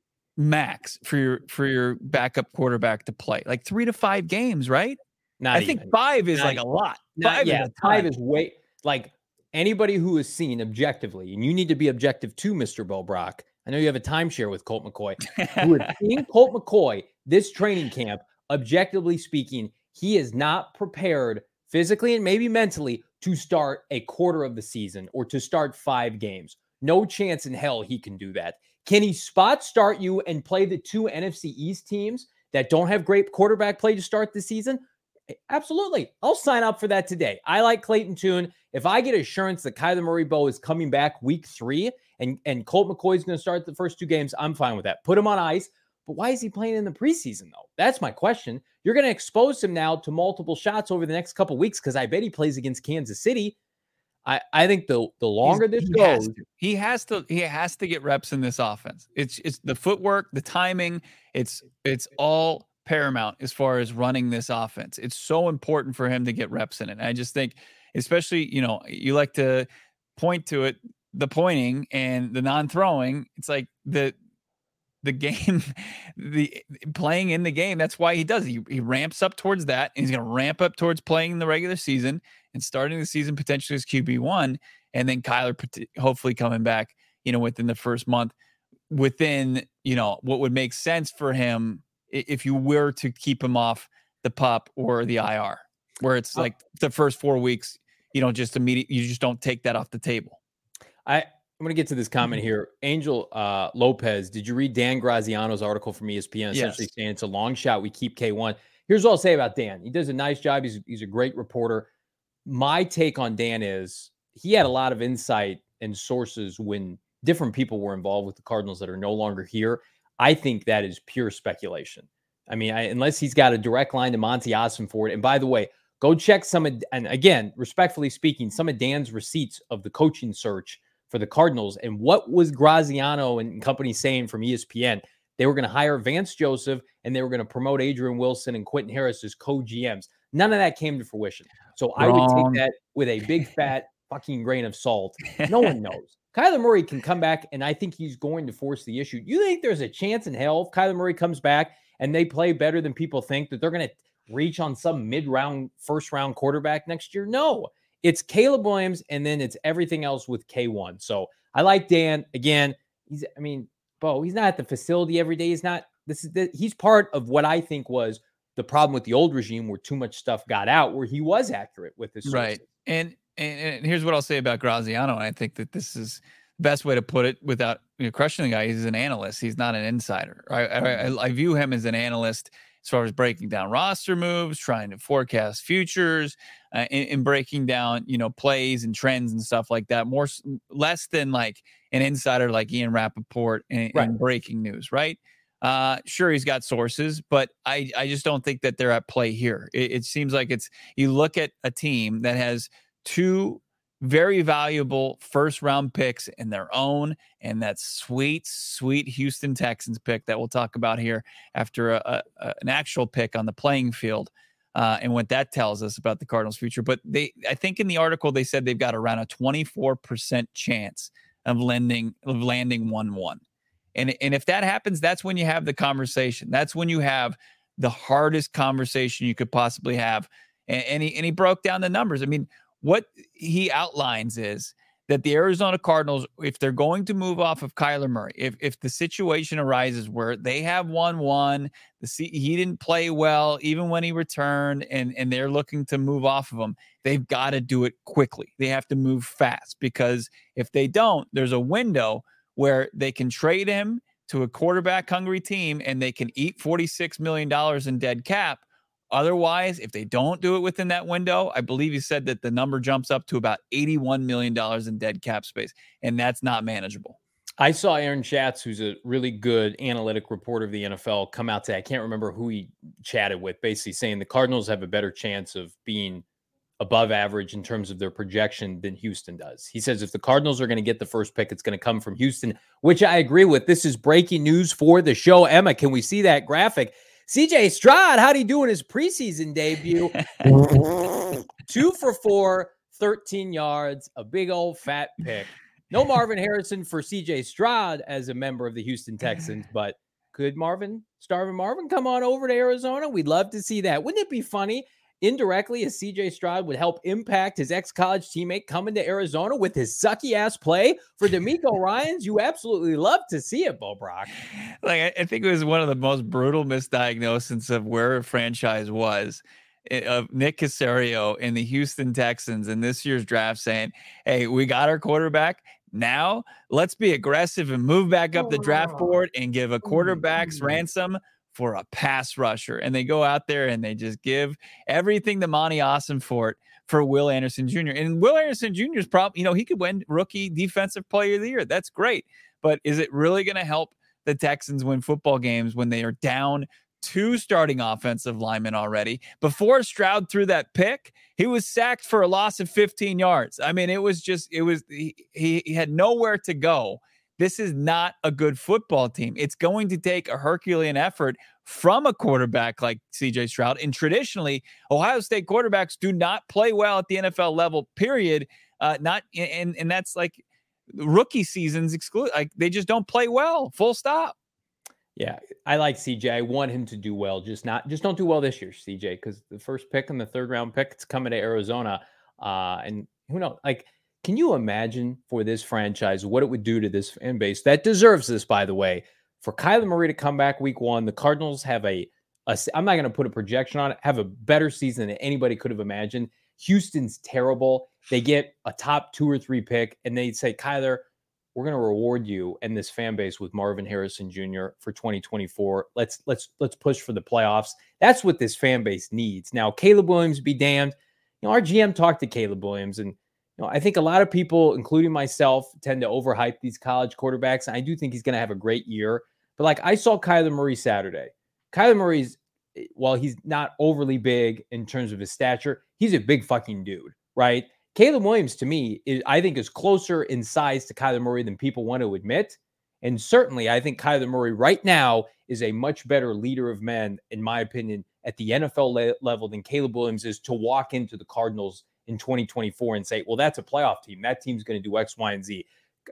max for your, for your backup quarterback to play? Like three to five games, right? Not I even. think five is not like even. a lot. Not, Five, yeah, is five is way, like, anybody who has seen objectively, and you need to be objective too, Mister Bo Brock. I know you have a timeshare with Colt McCoy. Who has seen Colt McCoy this training camp, objectively speaking, he is not prepared physically and maybe mentally to start a quarter of the season or to start five games. No chance in hell he can do that. Can he spot start you and play the two N F C East teams that don't have great quarterback play to start the season? Absolutely. I'll sign up for that today. I like Clayton Tune. If I get assurance that Kyler Murray Bo is coming back week three and, and Colt McCoy is going to start the first two games, I'm fine with that. Put him on ice. But why is he playing in the preseason, though? That's my question. You're going to expose him now to multiple shots over the next couple weeks because I bet he plays against Kansas City. I, I think the the longer He's, this he goes, has he has to he has to get reps in this offense. It's it's the footwork, the timing. It's it's all paramount as far as running this offense. It's so important for him to get reps in it. And I just think, especially, you know, you like to point to it, the pointing and the non-throwing. It's like the the game, the playing in the game. That's why he does. He, he ramps up towards that, and he's going to ramp up towards playing in the regular season and starting the season potentially as Q B one, and then Kyler hopefully coming back, you know, within the first month, within, you know, what would make sense for him if you were to keep him off the PUP or the I R, where it's like the first four weeks, you know, just immediate, you just don't take that off the table. I, I'm going to get to this comment here. Angel uh, Lopez, did you read Dan Graziano's article from E S P N? Essentially yes. saying it's a long shot. We keep K one. Here's what I'll say about Dan. He does a nice job. He's, he's a great reporter. My take on Dan is he had a lot of insight and sources when different people were involved with the Cardinals that are no longer here. I think that is pure speculation. I mean, I, unless he's got a direct line to Monty Ossenfort. And by the way, go check some of, and again, respectfully speaking, some of Dan's receipts of the coaching search for the Cardinals. And what was Graziano and company saying from E S P N? They were going to hire Vance Joseph, and they were going to promote Adrian Wilson and Quentin Harris as co-G Ms. None of that came to fruition. So Wrong. I would take that with a big fat fucking grain of salt. No one knows. Kyler Murray can come back, and I think he's going to force the issue. You think there's a chance in hell if Kyler Murray comes back and they play better than people think, that they're going to reach on some mid-round, first-round quarterback next year? No. It's Caleb Williams, and then it's everything else with K one. So I like Dan. Again, he's, I mean, Bo, he's not at the facility every day. He's not, this is, the, he's part of what I think was the problem with the old regime, where too much stuff got out, where he was accurate with his sources. Right. And, and, and here's what I'll say about Graziano. And I think that this is the best way to put it without, you know, crushing the guy. He's an analyst. He's not an insider. I, I, I view him as an analyst as far as breaking down roster moves, trying to forecast futures, uh, and, and breaking down, you know, plays and trends and stuff like that. More, less than like an insider like Ian Rappaport and, right. and breaking news, right? Uh, sure, he's got sources, but I, I just don't think that they're at play here. It, it seems like it's, you look at a team that has two very valuable first round picks in their own, and that sweet, sweet Houston Texans pick that we'll talk about here after a, a, an actual pick on the playing field, uh, and what that tells us about the Cardinals' future. But they, I think in the article they said they've got around a twenty-four percent chance of landing of landing one one, and and if that happens, that's when you have the conversation. That's when you have the hardest conversation you could possibly have. And, and he and he broke down the numbers. I mean, what he outlines is that the Arizona Cardinals, if they're going to move off of Kyler Murray, if if the situation arises where they have one one, the C, he didn't play well even when he returned, and, and they're looking to move off of him, they've got to do it quickly. They have to move fast, because if they don't, there's a window where they can trade him to a quarterback-hungry team and they can eat forty-six million dollars in dead cap. Otherwise, if they don't do it within that window, I believe he said that the number jumps up to about eighty-one million dollars in dead cap space, and that's not manageable. I saw Aaron Schatz, who's a really good analytic reporter of the N F L, come out today. I can't remember who he chatted with, basically saying the Cardinals have a better chance of being above average in terms of their projection than Houston does. He says if the Cardinals are going to get the first pick, it's going to come from Houston, which I agree with. This is breaking news for the show. Emma, can we see that graphic? C J Stroud, how'd he do in his preseason debut? Two for four, thirteen yards, a big old fat pick. No Marvin Harrison for C J Stroud as a member of the Houston Texans, but could Marvin, Starvin Marvin, come on over to Arizona? We'd love to see that. Wouldn't it be funny, indirectly, as C J Stroud would help impact his ex-college teammate coming to Arizona with his sucky-ass play for DeMeco Ryans? You absolutely love to see it, Bo Brock. Like, I think it was one of the most brutal misdiagnoses of where a franchise was, of Nick Caserio in the Houston Texans in this year's draft, saying, hey, we got our quarterback. Now let's be aggressive and move back up the draft board and give a quarterback's ransom for a pass rusher. And they go out there and they just give everything to Monty Ossenfort for Will Anderson Junior And Will Anderson Junior is probably, you know, he could win rookie defensive player of the year. That's great. But is it really going to help the Texans win football games when they are down two starting offensive linemen already? Before Stroud threw that pick, he was sacked for a loss of fifteen yards. I mean, it was just, it was, he, he had nowhere to go. This is not a good football team. It's going to take a Herculean effort from a quarterback like C J Stroud. And traditionally, Ohio State quarterbacks do not play well at the N F L level, period, Uh, not and and that's like rookie seasons exclude. Like they just don't play well. Full stop. Yeah, I like C J. I want him to do well. Just not, just don't do well this year, C J, because the first pick and the third round pick, it's coming to Arizona. Uh, and who knows? Like, can you imagine for this franchise what it would do to this fan base that deserves this, by the way, for Kyler Murray to come back week one? The Cardinals have a, a I'm not going to put a projection on it, have a better season than anybody could have imagined. Houston's terrible. They get a top two or three pick, and they say, Kyler, we're going to reward you and this fan base with Marvin Harrison Junior for twenty twenty-four. Let's let's let's push for the playoffs. That's what this fan base needs. Now, Caleb Williams be damned. You know, our G M talked to Caleb Williams, and you know, I think a lot of people, including myself, tend to overhype these college quarterbacks. And I do think he's going to have a great year. But like I saw Kyler Murray Saturday. Kyler Murray's, while he's not overly big in terms of his stature, he's a big fucking dude, right? Caleb Williams, to me, is, I think is closer in size to Kyler Murray than people want to admit. And certainly, I think Kyler Murray right now is a much better leader of men, in my opinion, at the N F L le- level than Caleb Williams is to walk into the Cardinals in twenty twenty-four and say, well, that's a playoff team. That team's going to do X, Y, and Z.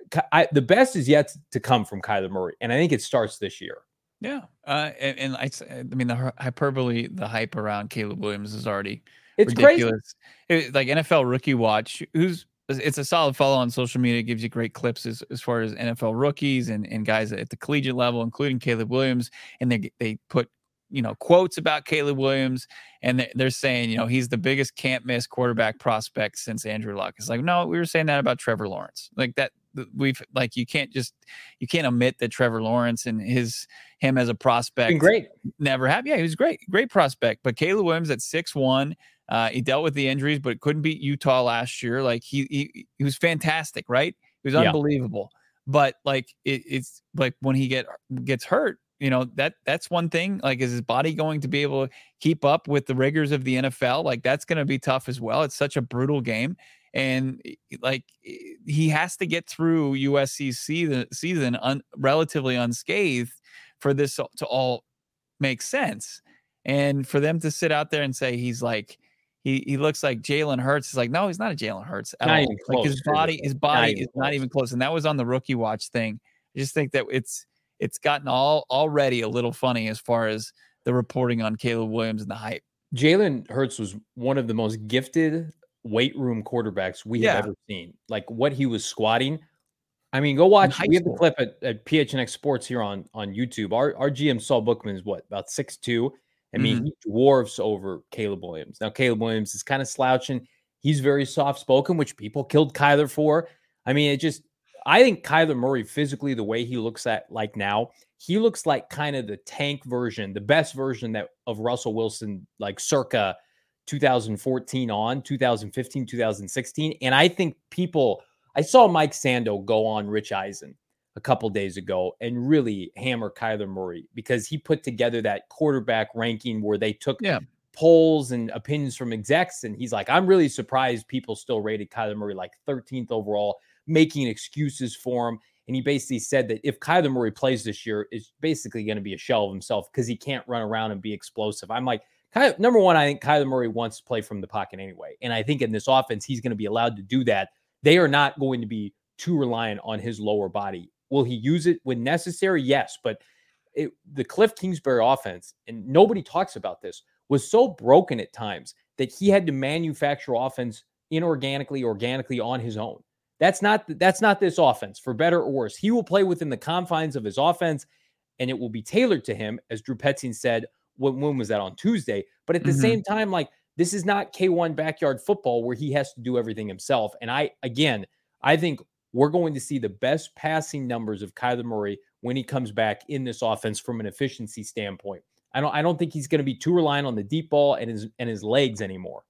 I, the best is yet to come from Kyler Murray, and I think it starts this year. Yeah. Uh, and, and I, I mean, the hyperbole, the hype around Caleb Williams is already It's ridiculous. Crazy. It, like N F L Rookie Watch, who's it's a solid follow on social media. It gives you great clips as, as far as N F L rookies and, and guys at the collegiate level, including Caleb Williams. And they they put, you know, quotes about Caleb Williams, and they're, they're saying, you know, he's the biggest can't miss quarterback prospect since Andrew Luck. It's like, no, we were saying that about Trevor Lawrence. Like that, we've like you can't just you can't omit that Trevor Lawrence and his him as a prospect been great never have. Yeah, he was great, great prospect. But Caleb Williams at six one. Uh, he dealt with the injuries, but couldn't beat Utah last year. Like he, he, he was fantastic, right? He was unbelievable. Yeah. But like it, it's like when he get gets hurt, you know that that's one thing. Like, is his body going to be able to keep up with the rigors of the N F L? Like that's going to be tough as well. It's such a brutal game, and like he has to get through U S C's season season un, relatively unscathed for this to all make sense. And for them to sit out there and say he's like. He he looks like Jalen Hurts. Is like, no, he's not a Jalen Hurts at not all. Like his body, his body not is close. Not even close. And that was on the Rookie Watch thing. I just think that it's it's gotten all already a little funny as far as the reporting on Caleb Williams and the hype. Jalen Hurts was one of the most gifted weight room quarterbacks we yeah. have ever seen. Like what he was squatting. I mean, go watch. We have the clip at, at P H N X Sports here on, on YouTube. Our our G M Saul Bookman is what, about six two. I mean, mm-hmm. he dwarfs over Caleb Williams. Now, Caleb Williams is kind of slouching. He's very soft-spoken, which people killed Kyler for. I mean, it just – I think Kyler Murray physically, the way he looks at like now, he looks like kind of the tank version, the best version that of Russell Wilson, like circa two thousand fourteen on, two thousand fifteen, two thousand sixteen. And I think people – I saw Mike Sando go on Rich Eisen a couple days ago and really hammer Kyler Murray because he put together that quarterback ranking where they took yeah. polls and opinions from execs. And he's like, I'm really surprised people still rated Kyler Murray like thirteenth overall, making excuses for him. And he basically said that if Kyler Murray plays this year, it's basically going to be a shell of himself because he can't run around and be explosive. I'm like, Kyler, number one, I think Kyler Murray wants to play from the pocket anyway. And I think in this offense, he's going to be allowed to do that. They are not going to be too reliant on his lower body. Will he use it when necessary? Yes, but it, the Cliff Kingsbury offense, and nobody talks about this, was so broken at times that he had to manufacture offense inorganically, organically on his own. That's not that's not this offense, for better or worse. He will play within the confines of his offense, and it will be tailored to him, as Drew Petzing said. When, when was that? On Tuesday. But at the mm-hmm. same time, like this is not K one backyard football where he has to do everything himself. And I, again, I think we're going to see the best passing numbers of Kyler Murray when he comes back in this offense from an efficiency standpoint. I don't I don't think he's going to be too reliant on the deep ball and his and his legs anymore.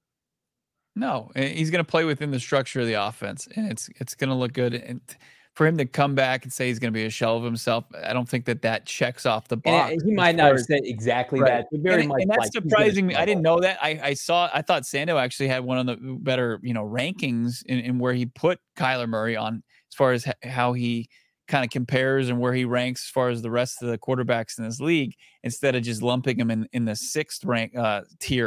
No, he's going to play within the structure of the offense, and it's it's going to look good. And for him to come back and say he's going to be a shell of himself, I don't think that that checks off the box. And he might not have said exactly right. that. But very and, much and that's like surprising me. I didn't know that. I, I saw. I thought Sando actually had one of the better, you know, rankings in, in where he put Kyler Murray on as far as how he kind of compares and where he ranks as far as the rest of the quarterbacks in this league, instead of just lumping him in, in the sixth rank uh, tier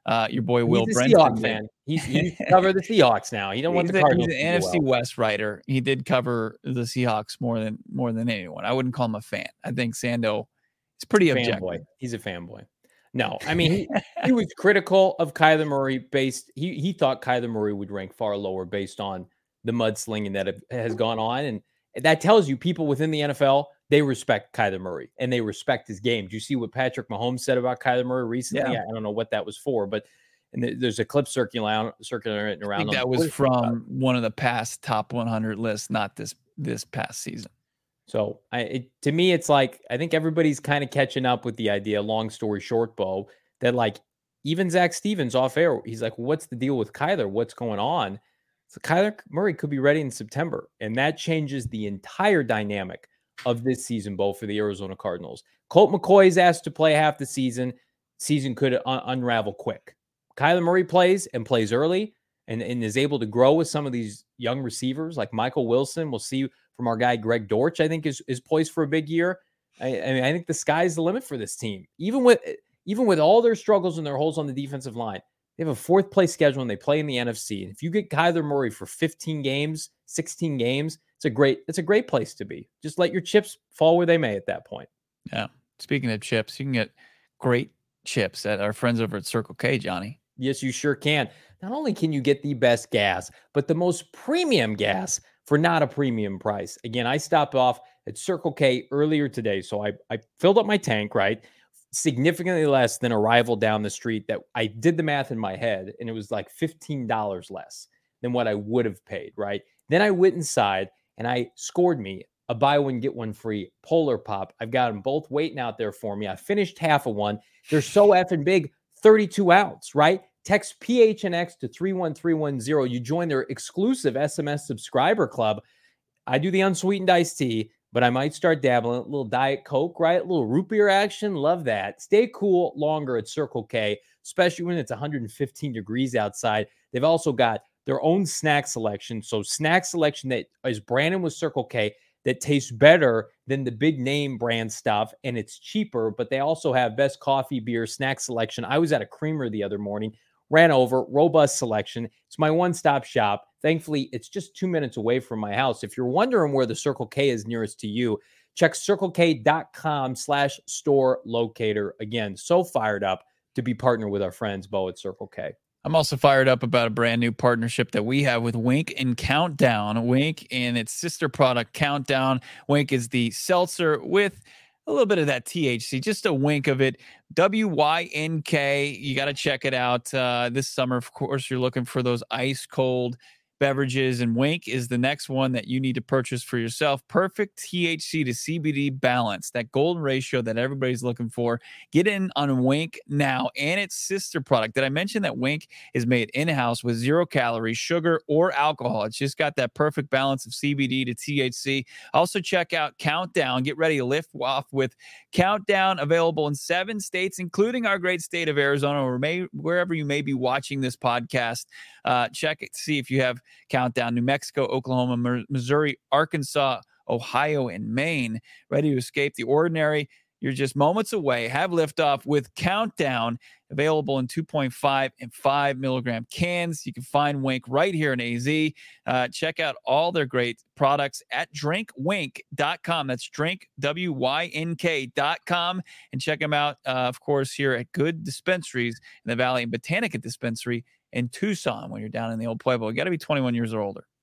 uh, your boy Will He's a Brenton. Seahawks fan. He's he cover the Seahawks now. He don't want He's the a- Cardinals. He's an to do N F C well. West writer. He did cover the Seahawks more than more than anyone. I wouldn't call him a fan. I think Sando is pretty objective. Fanboy. He's a fanboy. No, I mean he, he was critical of Kyler Murray based. He he thought Kyler Murray would rank far lower based on the mudslinging that has gone on, and that tells you people within the N F L, they respect Kyler Murray and they respect his game. Do you see what Patrick Mahomes said about Kyler Murray recently? Yeah. I don't know what that was for, but and there's a clip circulating circulating around. I think that was from one of the past top one hundred lists, not this this past season. So I, it, to me, it's like, I think everybody's kind of catching up with the idea, long story short, Bo, that like even Zach Stevens off air, he's like, what's the deal with Kyler? What's going on? So Kyler Murray could be ready in September. And that changes the entire dynamic of this season, Bo, for the Arizona Cardinals. Colt McCoy is asked to play half the season. Season could un- unravel quick. Kyler Murray plays and plays early and, and is able to grow with some of these young receivers like Michael Wilson. We'll see from our guy Greg Dortch, I think is, is poised for a big year. I, I mean, I think the sky's the limit for this team. Even with even with all their struggles and their holes on the defensive line, they have a fourth place schedule and they play in the N F C. And if you get Kyler Murray for fifteen games, sixteen games, it's a great it's a great place to be. Just let your chips fall where they may at that point. Yeah. Speaking of chips, you can get great chips at our friends over at Circle K, Johnny. Yes, you sure can. Not only can you get the best gas, but the most premium gas for not a premium price. Again, I stopped off at Circle K earlier today. So I, I filled up my tank, right? Significantly less than a rival down the street that I did the math in my head, and it was like fifteen dollars less than what I would have paid, right? Then I went inside and I scored me a buy one, get one free Polar Pop. I've got them both waiting out there for me. I finished half of one. They're so effing big, thirty-two ounce, right? Text P H N X to three one three one zero. You join their exclusive S M S subscriber club. I do the unsweetened iced tea, but I might start dabbling. A little Diet Coke, right? A little root beer action. Love that. Stay cool longer at Circle K, especially when it's one hundred fifteen degrees outside. They've also got their own snack selection. So snack selection that is branded with Circle K that tastes better than the big name brand stuff, and it's cheaper, but they also have best coffee, beer, snack selection. I was at a creamer the other morning, ran over, robust selection. It's my one-stop shop. Thankfully, it's just two minutes away from my house. If you're wondering where the Circle K is nearest to you, check circlek.com slash store locator. Again, so fired up to be partnered with our friends, Bo, at Circle K. I'm also fired up about a brand new partnership that we have with Wink and Countdown. Wink and its sister product, Countdown. Wink is the seltzer with a little bit of that T H C, just a wink of it. W Y N K. You got to check it out uh, this summer. Of course, you're looking for those ice cold beverages, and Wink is the next one that you need to purchase for yourself. Perfect T H C to C B D balance, that golden ratio that everybody's looking for. Get in on Wink now and its sister product. Did I mention that Wink is made in-house with zero calories, sugar, or alcohol? It's just got that perfect balance of C B D to T H C. Also check out Countdown. Get ready to lift off with Countdown, available in seven states, including our great state of Arizona, or may, wherever you may be watching this podcast. Uh, check it to see if you have Countdown. New Mexico, Oklahoma, Missouri, Arkansas, Ohio, and Maine. Ready to escape the ordinary? You're just moments away. Have liftoff with Countdown, available in two point five and five milligram cans. You can find Wink right here in A Z. Uh, check out all their great products at drink wink dot com. That's drink, W Y N K dot com. And check them out, uh, of course, here at Good Dispensaries in the Valley and Botanica Dispensary in Tucson when you're down in the old Pueblo. You got to be twenty-one years or older.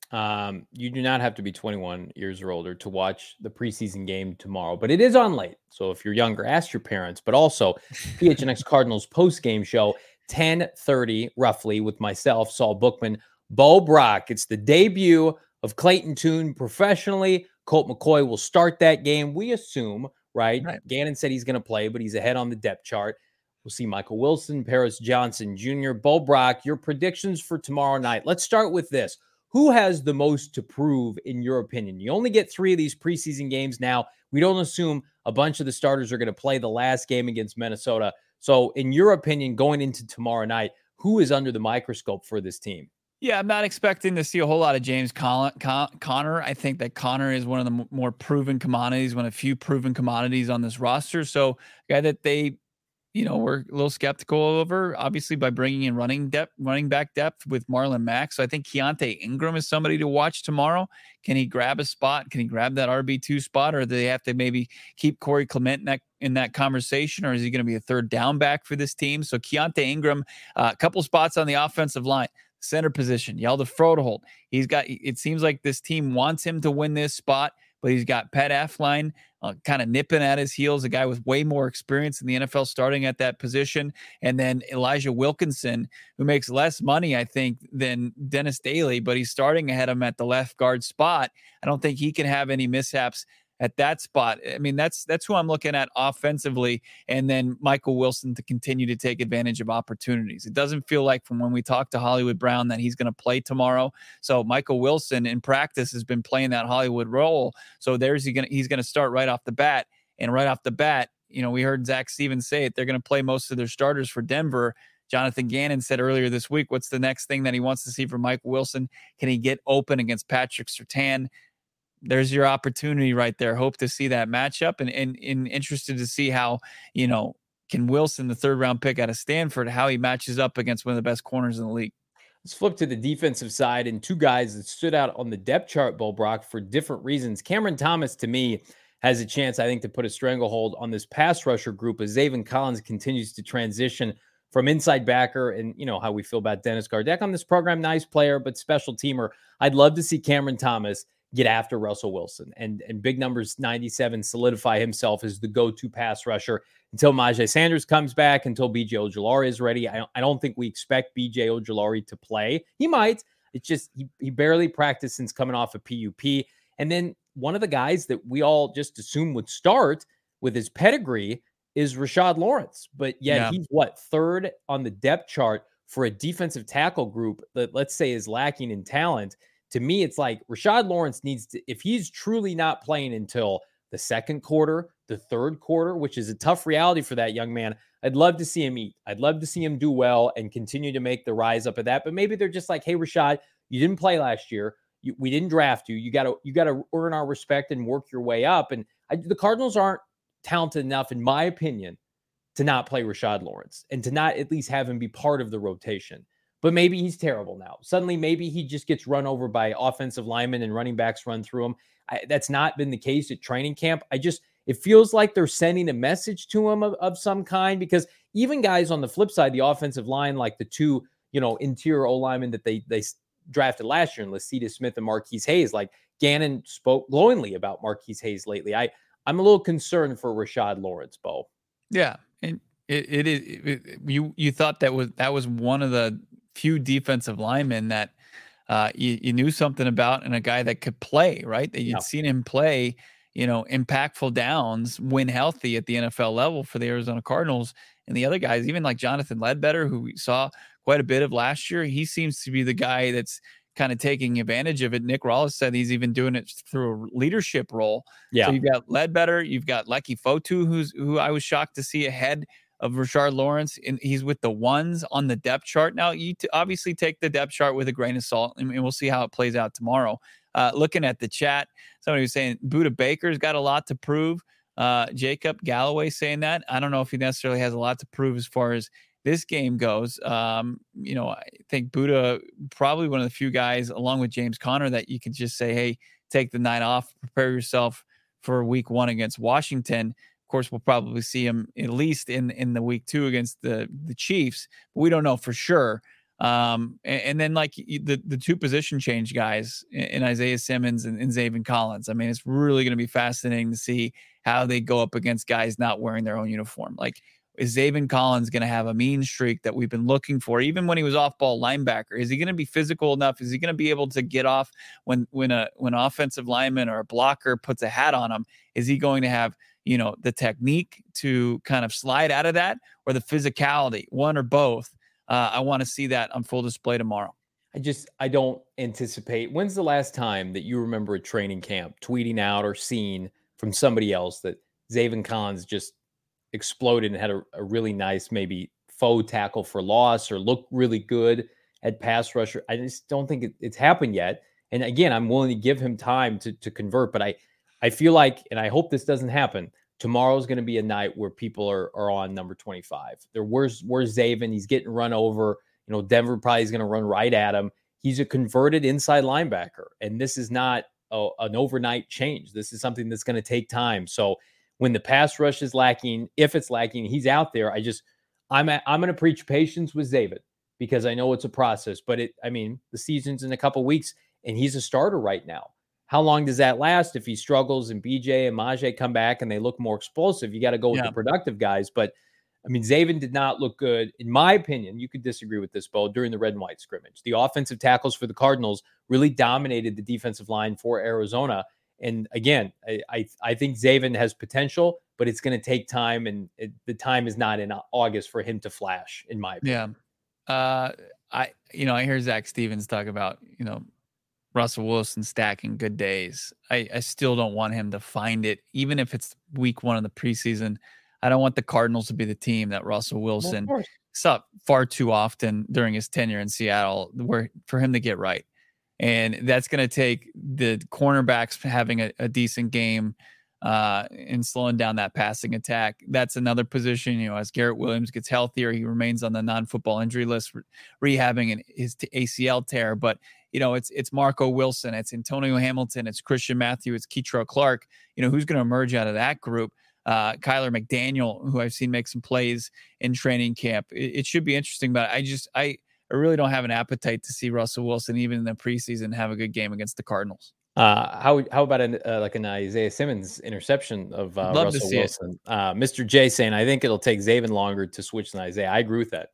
Um, you do not have to be twenty-one years or older to watch the preseason game tomorrow, but it is on late. So if you're younger, ask your parents. But also, P H N X Cardinals post-game show, ten thirty roughly, with myself, Saul Bookman, Bo Brock. It's the debut of Clayton Tune professionally. Colt McCoy will start that game, we assume, right? right. Gannon said he's going to play, but he's ahead on the depth chart. We'll see Michael Wilson, Paris Johnson Junior Bo Brock, your predictions for tomorrow night. Let's start with this. Who has the most to prove, in your opinion? You only get three of these preseason games now. We don't assume a bunch of the starters are going to play the last game against Minnesota. So, in your opinion, going into tomorrow night, who is under the microscope for this team? Yeah, I'm not expecting to see a whole lot of James Con- Con- Conner. I think that Conner is one of the m- more proven commodities, one of the few proven commodities on this roster. So, a guy that they you know, we're a little skeptical over, obviously, by bringing in running depth, running back depth with Marlon Mack. So I think Keontae Ingram is somebody to watch tomorrow. Can he grab a spot? Can he grab that R B two spot, or do they have to maybe keep Corey Clement in that, in that conversation, or is he going to be a third down back for this team? So Keontae Ingram, a uh, couple spots on the offensive line, center position, Hjalte Frodeholt. He's got, it seems like this team wants him to win this spot, but he's got Pat Elflein uh, kind of nipping at his heels, a guy with way more experience in the N F L starting at that position. And then Elijah Wilkinson, who makes less money, I think, than Dennis Daly, but he's starting ahead of him at the left guard spot. I don't think he can have any mishaps at that spot. I mean, that's that's who I'm looking at offensively, and then Michael Wilson to continue to take advantage of opportunities. It doesn't feel like from when we talked to Hollywood Brown that he's going to play tomorrow. So Michael Wilson in practice has been playing that Hollywood role. So there's he going he's going to start right off the bat, and right off the bat, you know, we heard Zach Stevens say it. They're going to play most of their starters for Denver. Jonathan Gannon said earlier this week, what's the next thing that he wants to see from Michael Wilson? Can he get open against Patrick Surtain? There's your opportunity right there. Hope to see that matchup, and, and, and interested to see how, you know, can Wilson, the third round pick out of Stanford, how he matches up against one of the best corners in the league. Let's flip to the defensive side, and two guys that stood out on the depth chart, Bo Brock, for different reasons. Cameron Thomas, to me, has a chance, I think, to put a stranglehold on this pass rusher group as Zaven Collins continues to transition from inside backer, and you know how we feel about Dennis Gardeck on this program. Nice player, but special teamer. I'd love to see Cameron Thomas get after Russell Wilson and, and big numbers ninety-seven solidify himself as the go-to pass rusher until Myjai Sanders comes back, until B J Ojulari is ready. I don't, I don't think we expect B J Ojulari to play. He might. It's just he, he barely practiced since coming off a P U P. And then one of the guys that we all just assume would start with his pedigree is Rashad Lawrence. But yet yeah. he's what, third on the depth chart for a defensive tackle group that, let's say, is lacking in talent. To me, it's like Rashad Lawrence needs to, if he's truly not playing until the second quarter, the third quarter, which is a tough reality for that young man, I'd love to see him eat. I'd love to see him do well and continue to make the rise up of that. But maybe they're just like, hey, Rashad, you didn't play last year. You, we didn't draft you. You got to you got to earn our respect and work your way up. And I, the Cardinals aren't talented enough, in my opinion, to not play Rashad Lawrence and to not at least have him be part of the rotation. But maybe he's terrible now. Suddenly, maybe he just gets run over by offensive linemen and running backs run through him. I, that's not been the case at training camp. I just, it feels like they're sending a message to him of, of some kind, because even guys on the flip side, the offensive line, like the two, you know, interior O-linemen that they they drafted last year, and Lacita Smith and Marquise Hayes, like Gannon spoke glowingly about Marquise Hayes lately. I, I'm a little concerned for Rashad Lawrence, Bo. Yeah. And it, it is, it, it, you, you thought that was, that was one of the few defensive linemen that uh, you, you knew something about, and a guy that could play, right? That you'd yeah. seen him play, you know, impactful downs when healthy at the N F L level for the Arizona Cardinals. And the other guys, even like Jonathan Ledbetter, who we saw quite a bit of last year, he seems to be the guy that's kind of taking advantage of it. Nick Rawls said he's even doing it through a leadership role. Yeah. So you've got Ledbetter, you've got Leki Fotu, who's who I was shocked to see ahead of Rashard Lawrence, and he's with the ones on the depth chart. Now, you t- obviously take the depth chart with a grain of salt, and, and we'll see how it plays out tomorrow. Uh, looking at the chat, somebody was saying Buda Baker's got a lot to prove. Uh, Jacob Galloway saying that. I don't know if he necessarily has a lot to prove as far as this game goes. Um, you know, I think Buda probably one of the few guys, along with James Conner, that you could just say, hey, take the night off, prepare yourself for week one against Washington. Of course, we'll probably see him at least in, in the week two against the, the Chiefs, but we don't know for sure. Um, and, and then like the, the two position change guys in, in Isaiah Simmons and, and Zaven Collins. I mean, it's really going to be fascinating to see how they go up against guys not wearing their own uniform. Like, is Zaven Collins going to have a mean streak that we've been looking for, even when he was off-ball linebacker? Is he going to be physical enough? Is he going to be able to get off when when a when an offensive lineman or a blocker puts a hat on him? Is he going to have, you know, the technique to kind of slide out of that, or the physicality, one or both? Uh, I want to see that on full display tomorrow. I just, I don't anticipate. When's the last time that you remember a training camp tweeting out or seeing from somebody else that Zaven Collins just exploded and had a, a really nice, maybe faux tackle for loss, or looked really good at pass rusher? I just don't think it, it's happened yet. And again, I'm willing to give him time to, to convert, but I, I feel like, and I hope this doesn't happen, tomorrow's going to be a night where people are, are on number twenty-five. There, where's, where's Zaven? He's getting run over. You know, Denver probably is going to run right at him. He's a converted inside linebacker, and this is not a, an overnight change. This is something that's going to take time. So when the pass rush is lacking, if it's lacking, he's out there. I just, I'm at, I'm going to preach patience with Zaven because I know it's a process. But it, I mean, the season's in a couple weeks, and he's a starter right now. How long does that last? If he struggles and B J and Majay come back and they look more explosive, you got to go with Yeah. the productive guys. But I mean, Zaven did not look good. In my opinion, you could disagree with this, Bo, during the red and white scrimmage. The offensive tackles for the Cardinals really dominated the defensive line for Arizona. And again, I I, I think Zaven has potential, but it's going to take time. And it, the time is not in August for him to flash, in my opinion. Yeah. Uh, I, you know, I hear Zach Stevens talk about, you know, Russell Wilson stacking good days. I, I still don't want him to find it, even if it's week one of the preseason. I don't want the Cardinals to be the team that Russell Wilson Well, saw far too often during his tenure in Seattle, where for him to get right. And that's going to take the cornerbacks having a, a decent game uh, and slowing down that passing attack. That's another position, you know, as Garrett Williams gets healthier, he remains on the non-football injury list, re- rehabbing an, his A C L tear. But, you know, it's it's Marco Wilson, it's Antonio Hamilton, it's Christian Matthew, it's Keitrell Clark. You know, who's going to emerge out of that group? Uh, Kyler McDaniel, who I've seen make some plays in training camp. It, it should be interesting, but I just, I, I really don't have an appetite to see Russell Wilson, even in the preseason, have a good game against the Cardinals. Uh, how how about an, uh, like an Isaiah Simmons interception of uh, Love to Russell see it. Wilson? Uh, Mister J saying, I think it'll take Zaven longer to switch than Isaiah. I agree with that.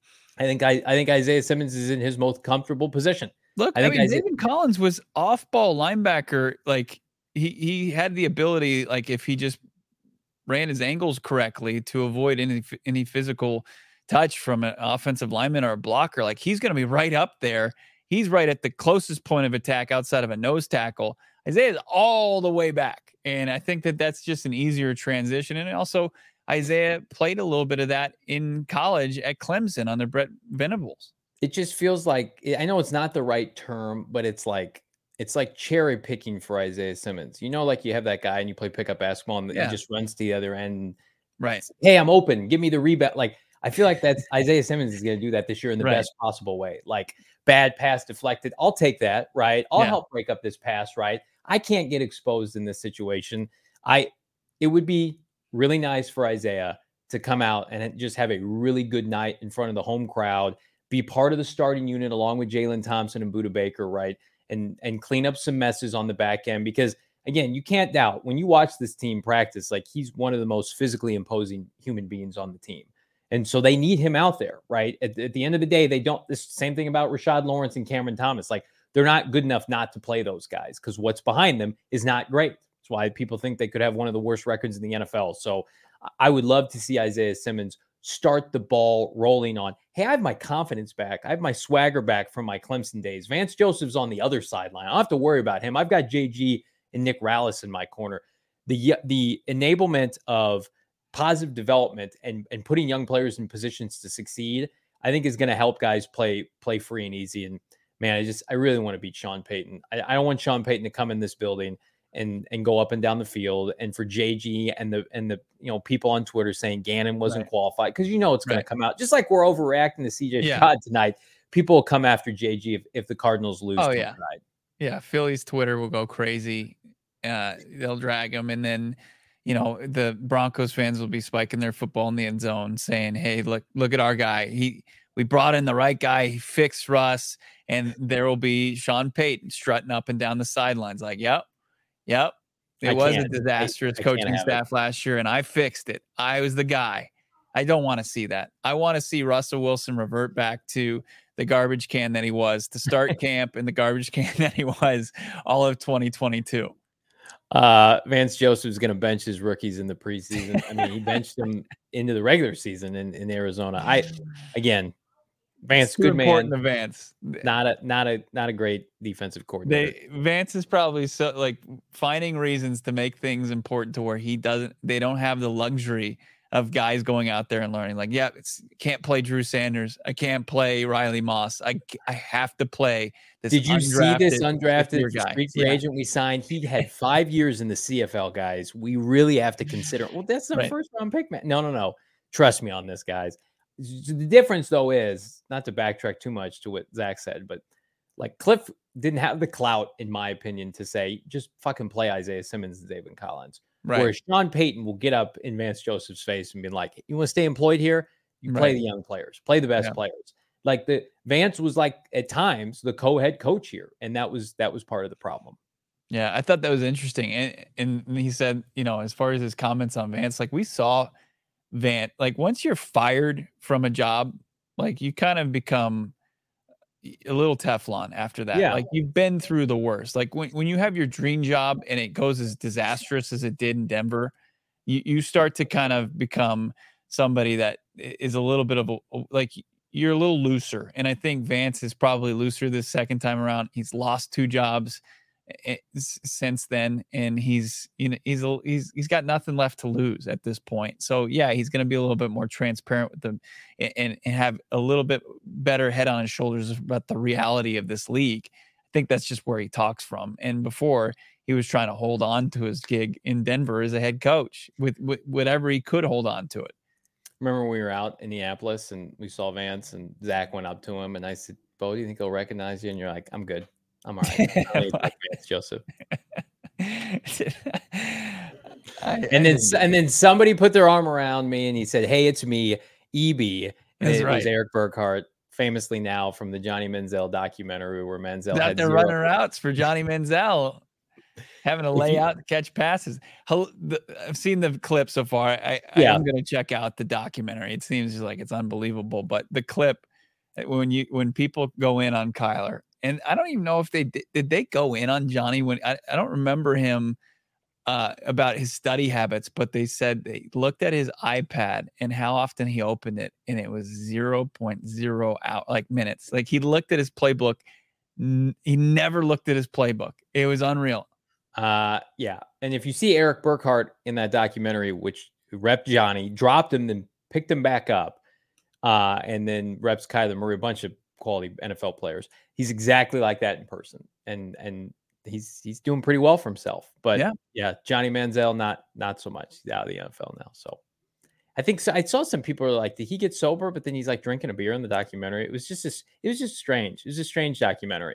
I think I, I think Isaiah Simmons is in his most comfortable position. Look, I I, think mean, Isaiah- David Collins was off-ball linebacker. Like he he had the ability, like if he just ran his angles correctly, to avoid any any physical touch from an offensive lineman or a blocker. Like he's going to be right up there. He's right at the closest point of attack outside of a nose tackle. Isaiah is all the way back, and I think that that's just an easier transition. And also, Isaiah played a little bit of that in college at Clemson under Brett Venables. It just feels like, I know it's not the right term, but it's like it's like cherry picking for Isaiah Simmons. You know, like you have that guy and you play pickup basketball and Yeah. he just runs to the other end. Right. Hey, I'm open. Give me the rebound. Like I feel like that's Isaiah Simmons is going to do that this year in the Right. best possible way. Like bad pass deflected. I'll take that. Right. I'll Yeah. help break up this pass. Right. I can't get exposed in this situation. I. It would be really nice for Isaiah to come out and just have a really good night in front of the home crowd, be part of the starting unit along with Jalen Thompson and Budda Baker, right? And and clean up some messes on the back end. Because again, you can't doubt when you watch this team practice, like he's one of the most physically imposing human beings on the team. And so they need him out there, right? At, at the end of the day, they don't, the same thing about Rashad Lawrence and Cameron Thomas. Like they're not good enough not to play those guys because what's behind them is not great. That's why people think they could have one of the worst records in the N F L. So I would love to see Isaiah Simmons start the ball rolling on, hey, I have my confidence back. I have my swagger back from my Clemson days. Vance Joseph's on the other sideline. I don't have to worry about him. I've got J G and Nick Rallis in my corner. The the enablement of positive development and, and putting young players in positions to succeed, I think is going to help guys play play free and easy. And man, I just I really want to beat Sean Payton. I, I don't want Sean Payton to come in this building and and go up and down the field, and for J G and the and the you know people on Twitter saying Gannon wasn't Right. qualified, because you know it's going Right. to come out. Just like we're overreacting to C J Yeah. Stroud tonight, people will come after J G if, if the Cardinals lose. Oh, tonight. yeah. Yeah, Philly's Twitter will go crazy. Uh, they'll drag him, and then you know the Broncos fans will be spiking their football in the end zone, saying, "Hey, look, look at our guy. He, we brought in the right guy. He fixed Russ." And there will be Sean Payton strutting up and down the sidelines, like, "Yep, yep, it I was a can't. disastrous I- I can't coaching have it. staff last year, and I fixed it. I was the guy." I don't want to see that. I want to see Russell Wilson revert back to the garbage can that he was to start camp, and the garbage can that he was all of twenty twenty-two. Uh, Vance Joseph's going to bench his rookies in the preseason. I mean, he benched them into the regular season in, in Arizona. I again, Vance, Too good man, important to Vance. not a not a not a great defensive coordinator. They Vance is probably so like finding reasons to make things important to where he doesn't. They don't have the luxury of guys going out there and learning. Like, yeah, it's can't play Drew Sanders. I can't play Riley Moss. I I have to play this. Did you see this undrafted guy. street free Yeah. agent we signed? He had five years in the C F L, guys. We really have to consider. Well, that's the Right. first round pick, man. No, no, no. Trust me on this, guys. The difference, though, is not to backtrack too much to what Zach said, but like Cliff didn't have the clout, in my opinion, to say just fucking play Isaiah Simmons and David Collins. Right. Whereas Sean Payton will get up in Vance Joseph's face and be like, "You want to stay employed here? You play Right. the young players, play the best Yeah. players." Like the Vance was like at times the co-head coach here, and that was that was part of the problem. Yeah, I thought that was interesting. And, and he said, you know, as far as his comments on Vance, like we saw Vance, like once you're fired from a job, like you kind of become a little Teflon after that. Yeah. Like you've been through the worst. Like when, when you have your dream job and it goes as disastrous as it did in Denver, you, you start to kind of become somebody that is a little bit of a, like you're a little looser. And I think Vance is probably looser this second time around. He's lost two jobs since then, and he's you know he's a, he's he's got nothing left to lose at this point. So yeah, he's going to be a little bit more transparent with them and, and have a little bit better head on his shoulders about the reality of this league. I think that's just where he talks from. And before, he was trying to hold on to his gig in Denver as a head coach with, with whatever he could hold on to it. Remember when we were out in Minneapolis and we saw Vance and Zach went up to him and I said, "Bo, do you think he'll recognize you?" And you're like, "I'm good. I'm all right." I really like Vance Joseph. I, And then and then somebody put their arm around me and he said, "Hey, it's me, E B." And That's it right. was Eric Burkhart, famously now from the Johnny Manziel documentary where Manziel out had there zero- running routes for Johnny Manziel, having to If lay you- out and catch passes. Hel- the- I've seen the clip so far. I, I Yeah. am going to check out the documentary. It seems like it's unbelievable. But the clip uh, when you when people go in on Kyler, and I don't even know if they did, did they go in on Johnny when I, I don't remember him uh, about his study habits, but they said they looked at his iPad and how often he opened it, and it was zero point zero out like minutes. Like he looked at his playbook. N- he never looked at his playbook. It was unreal. Uh, yeah. And if you see Eric Burkhart in that documentary, which rep Johnny, dropped him, then picked him back up, uh, and then reps Kyler Murray, a bunch of quality N F L players. He's exactly like that in person. And, and he's, he's doing pretty well for himself, but Yeah. yeah, Johnny Manziel, not, not so much. He's out of the N F L now. So I think so, I saw some people are like, did he get sober? But then he's like drinking a beer in the documentary. It was just this, it was just strange. It was a strange documentary.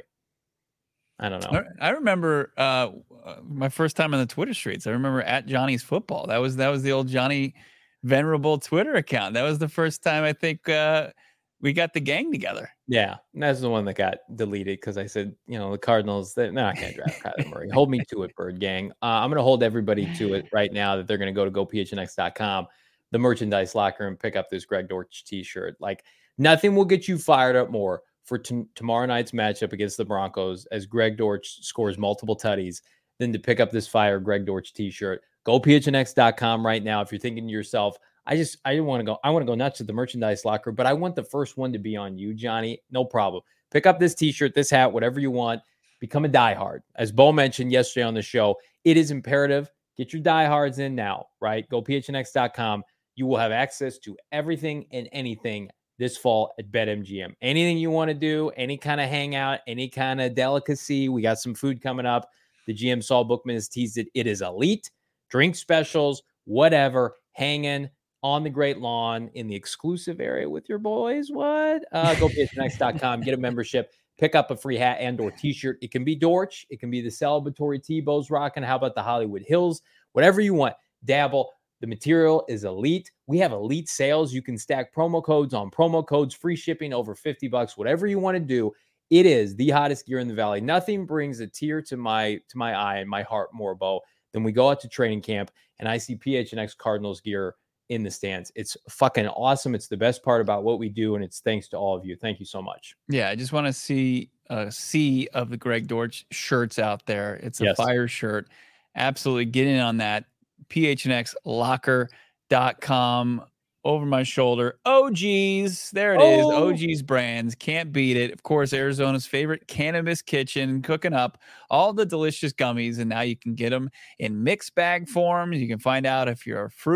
I don't know. I I remember uh, uh, my first time on the Twitter streets. I remember at Johnny's Football. That was that was the old Johnny Venerable Twitter account. That was the first time I think uh, we got the gang together. Yeah, and that's the one that got deleted because I said, you know, the Cardinals, they're not going to draft Kyler Murray. Hold me to it, Bird Gang. Uh, I'm going to hold everybody to it right now that they're going to go to go P H N X dot com, the merchandise locker, and pick up this Greg Dortch t-shirt. Like, nothing will get you fired up more for t- tomorrow night's matchup against the Broncos as Greg Dortch scores multiple tutties than to pick up this fire Greg Dortch t-shirt. Go P H N X dot com right now. If you're thinking to yourself, I just, I want to go, I want to go nuts at the merchandise locker, but I want the first one to be on you, Johnny. No problem. Pick up this t-shirt, this hat, whatever you want. Become a diehard. As Bo mentioned yesterday on the show, it is imperative. Get your diehards in now, right? Go P H N X dot com. You will have access to everything and anything this fall at BetMGM. Anything you want to do, any kind of hangout, any kind of delicacy. We got some food coming up. The G M Saul Bookman has teased it. It is elite. Drink specials, whatever, hanging on the Great Lawn in the exclusive area with your boys. What? Uh, go P H N X dot com, get a membership, pick up a free hat and or t-shirt. It can be Dortch. It can be the celebratory T-Bows rocking. How about the Hollywood Hills? Whatever you want. Dabble. The material is elite. We have elite sales. You can stack promo codes on promo codes, free shipping over fifty bucks, whatever you want to do. It is the hottest gear in the Valley. Nothing brings a tear to my to my eye and my heart more, Bo, than we go out to training camp and I see P H N X Cardinals gear in the stands. It's fucking awesome. It's the best part about what we do, and it's thanks to all of you. Thank you so much. Yeah, I just want to see a sea of the Greg Dortch shirts out there. It's a Yes. fire shirt. Absolutely get in on that. P H N X locker dot com over my shoulder. O Gs, there it is. Oh. O Gs brands, can't beat it. Of course, Arizona's favorite cannabis kitchen, cooking up all the delicious gummies, and now you can get them in mixed bag forms. You can find out if you're a fruit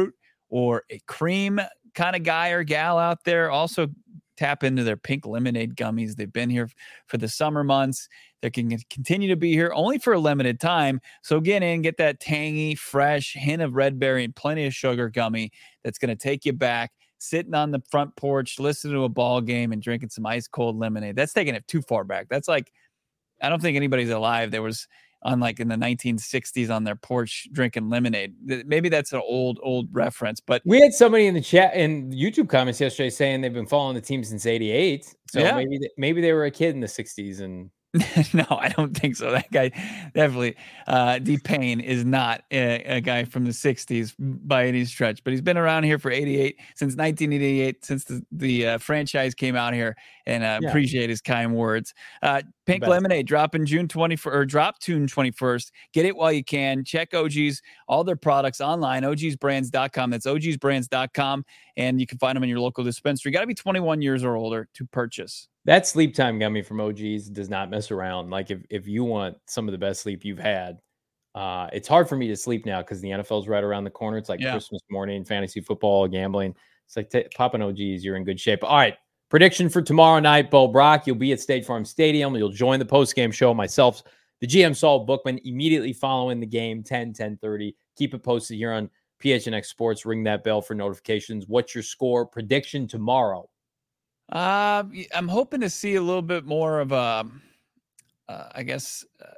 or a cream kind of guy or gal out there, also tap into their pink lemonade gummies. They've been here for the summer months. They can continue to be here only for a limited time. So get in, get that tangy, fresh hint of red berry and plenty of sugar gummy that's going to take you back, sitting on the front porch, listening to a ball game and drinking some ice cold lemonade. That's taking it too far back. That's like, I don't think anybody's alive there was on like in the nineteen sixties on their porch drinking lemonade. Maybe that's an old, old reference, but we had somebody in the chat in YouTube comments yesterday saying they've been following the team since eighty-eight. So yeah. maybe, maybe they were a kid in the sixties and no, I don't think so. That guy definitely, uh, D-Payne is not a, a guy from the sixties by any stretch, but he's been around here for eighty-eight, since nineteen eighty-eight, since the, the uh, franchise came out here, and uh, yeah. appreciate his kind words. Uh, Pink Lemonade dropping June twenty-first, or drop June twenty-first. Get it while you can. Check O G's, all their products online, O Gs brands dot com. That's O Gs brands dot com, and you can find them in your local dispensary. You got to be twenty-one years or older to purchase. That sleep time gummy from O G's does not mess around. Like if, if you want some of the best sleep you've had, uh, it's hard for me to sleep now because the N F L's right around the corner. It's like yeah. Christmas morning, fantasy football, gambling. It's like t- popping O G's, you're in good shape. All right, prediction for tomorrow night, Bo Brock. You'll be at State Farm Stadium. You'll join the post-game show. Myself, the G M Saul Bookman, immediately following the game, ten, ten thirty. Keep it posted here on P H N X Sports. Ring that bell for notifications. What's your score prediction tomorrow? Uh, I'm hoping to see a little bit more of a, uh, I guess, uh,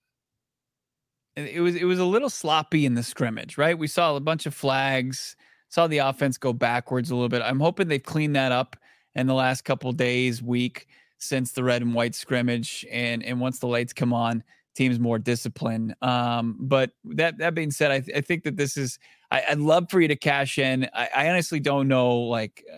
it was it was a little sloppy in the scrimmage, right? We saw a bunch of flags, saw the offense go backwards a little bit. I'm hoping they've cleaned that up in the last couple of days, week since the red and white scrimmage, and and once the lights come on, team's more disciplined. Um, but that that being said, I, th- I think that this is. I, I'd love for you to cash in. I, I honestly don't know, like. Uh,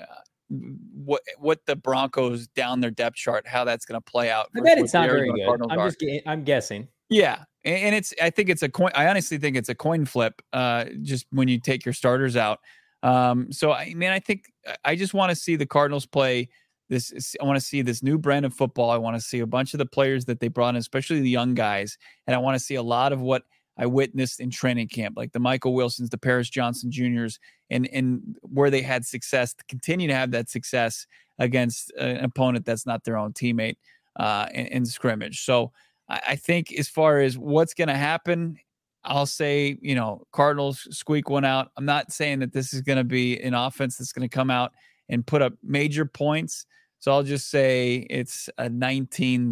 what what the Broncos down their depth chart, how that's going to play out. I bet it's not very good. Cardinals I'm are. just I'm guessing. Yeah, and, and it's I think it's a coin. I honestly think it's a coin flip. Uh, just when you take your starters out. Um, so I mean, I think I just want to see the Cardinals play this. I want to see this new brand of football. I want to see a bunch of the players that they brought in, especially the young guys, and I want to see a lot of what I witnessed in training camp, like the Michael Wilsons, the Paris Johnson Juniors, and, and where they had success, to continue to have that success against an opponent that's not their own teammate uh, in, in scrimmage. So I, I think as far as what's going to happen, I'll say, you know, Cardinals squeak one out. I'm not saying that this is going to be an offense that's going to come out and put up major points. So I'll just say it's a nineteen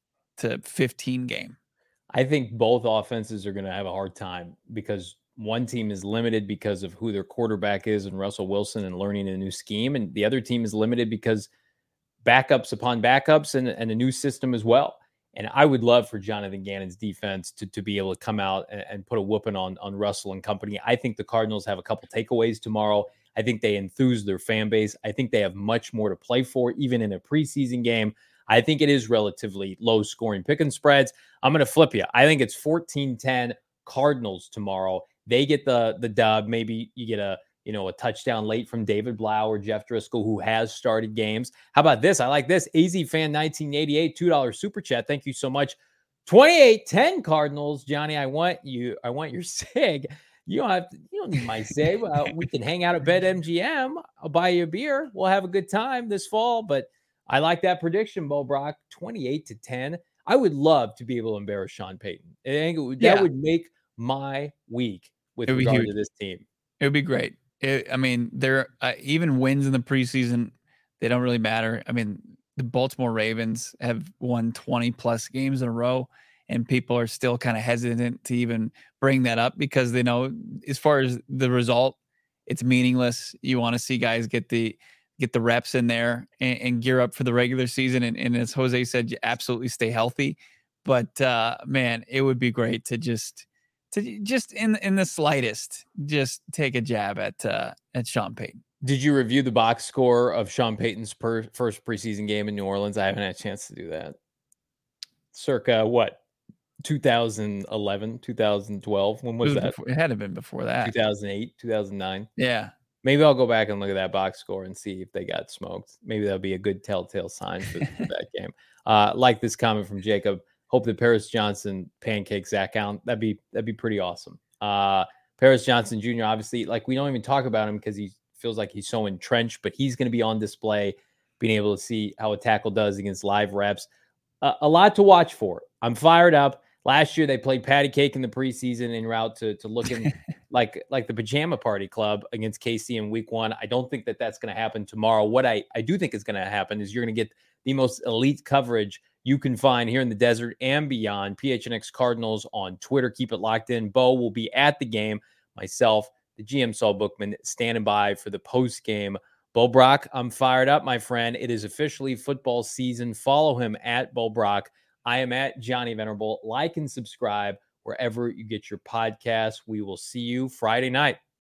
to fifteen game. I think both offenses are going to have a hard time because one team is limited because of who their quarterback is and Russell Wilson and learning a new scheme. And the other team is limited because backups upon backups and, and a new system as well. And I would love for Jonathan Gannon's defense to, to be able to come out and, and put a whooping on, on Russell and company. I think the Cardinals have a couple takeaways tomorrow. I think they enthuse their fan base. I think they have much more to play for, even in a preseason game. I think it is relatively low scoring pick and spreads. I'm going to flip you. I think it's fourteen ten Cardinals tomorrow. They get the the dub. Maybe you get a, you know, a touchdown late from David Blau or Jeff Driscoll, who has started games. How about this? I like this. A Z Fan nineteen eighty-eight, two dollars super chat. Thank you so much. twenty-eight ten Cardinals. Johnny, I want you. I want your sig. You don't have to, you don't need my sig. Uh, we can hang out at BetMGM. I'll buy you a beer. We'll have a good time this fall. But I like that prediction, Bo Brock, twenty-eight to ten. I would love to be able to embarrass Sean Payton. I think it would, that yeah. would make my week with regard to this team. It would be great. It, I mean, there uh, even wins in the preseason, they don't really matter. I mean, the Baltimore Ravens have won twenty plus games in a row, and people are still kind of hesitant to even bring that up because they know as far as the result, it's meaningless. You want to see guys get the get the reps in there and, and gear up for the regular season. And, and as Jose said, you absolutely stay healthy. But uh, man, it would be great to just to just in in the slightest just take a jab at uh, at Sean Payton. Did you review the box score of Sean Payton's per, first preseason game in New Orleans? I haven't had a chance to do that. Circa what? two thousand eleven, two thousand twelve. When was, was that? Before, it had to have been before that. two thousand eight, two thousand nine. Yeah. Maybe I'll go back and look at that box score and see if they got smoked. Maybe that'll be a good telltale sign for, for that game. Uh, like this comment from Jacob. Hope that Paris Johnson pancakes Zach Allen. That'd be that'd be pretty awesome. Uh, Paris Johnson Junior, obviously, like we don't even talk about him because he feels like he's so entrenched, but he's going to be on display, being able to see how a tackle does against live reps. Uh, a lot to watch for. I'm fired up. Last year, they played patty cake in the preseason en route to, to looking like, like the pajama party club against K C in week one. I don't think that that's going to happen tomorrow. What I, I do think is going to happen is you're going to get the most elite coverage you can find here in the desert and beyond. P H N X Cardinals on Twitter. Keep it locked in. Bo will be at the game. Myself, the G M Saul Bookman, standing by for the post game. Bo Brock, I'm fired up, my friend. It is officially football season. Follow him at Bo Brock. I am at Johnny Venerable. Like and subscribe wherever you get your podcasts. We will see you Friday night.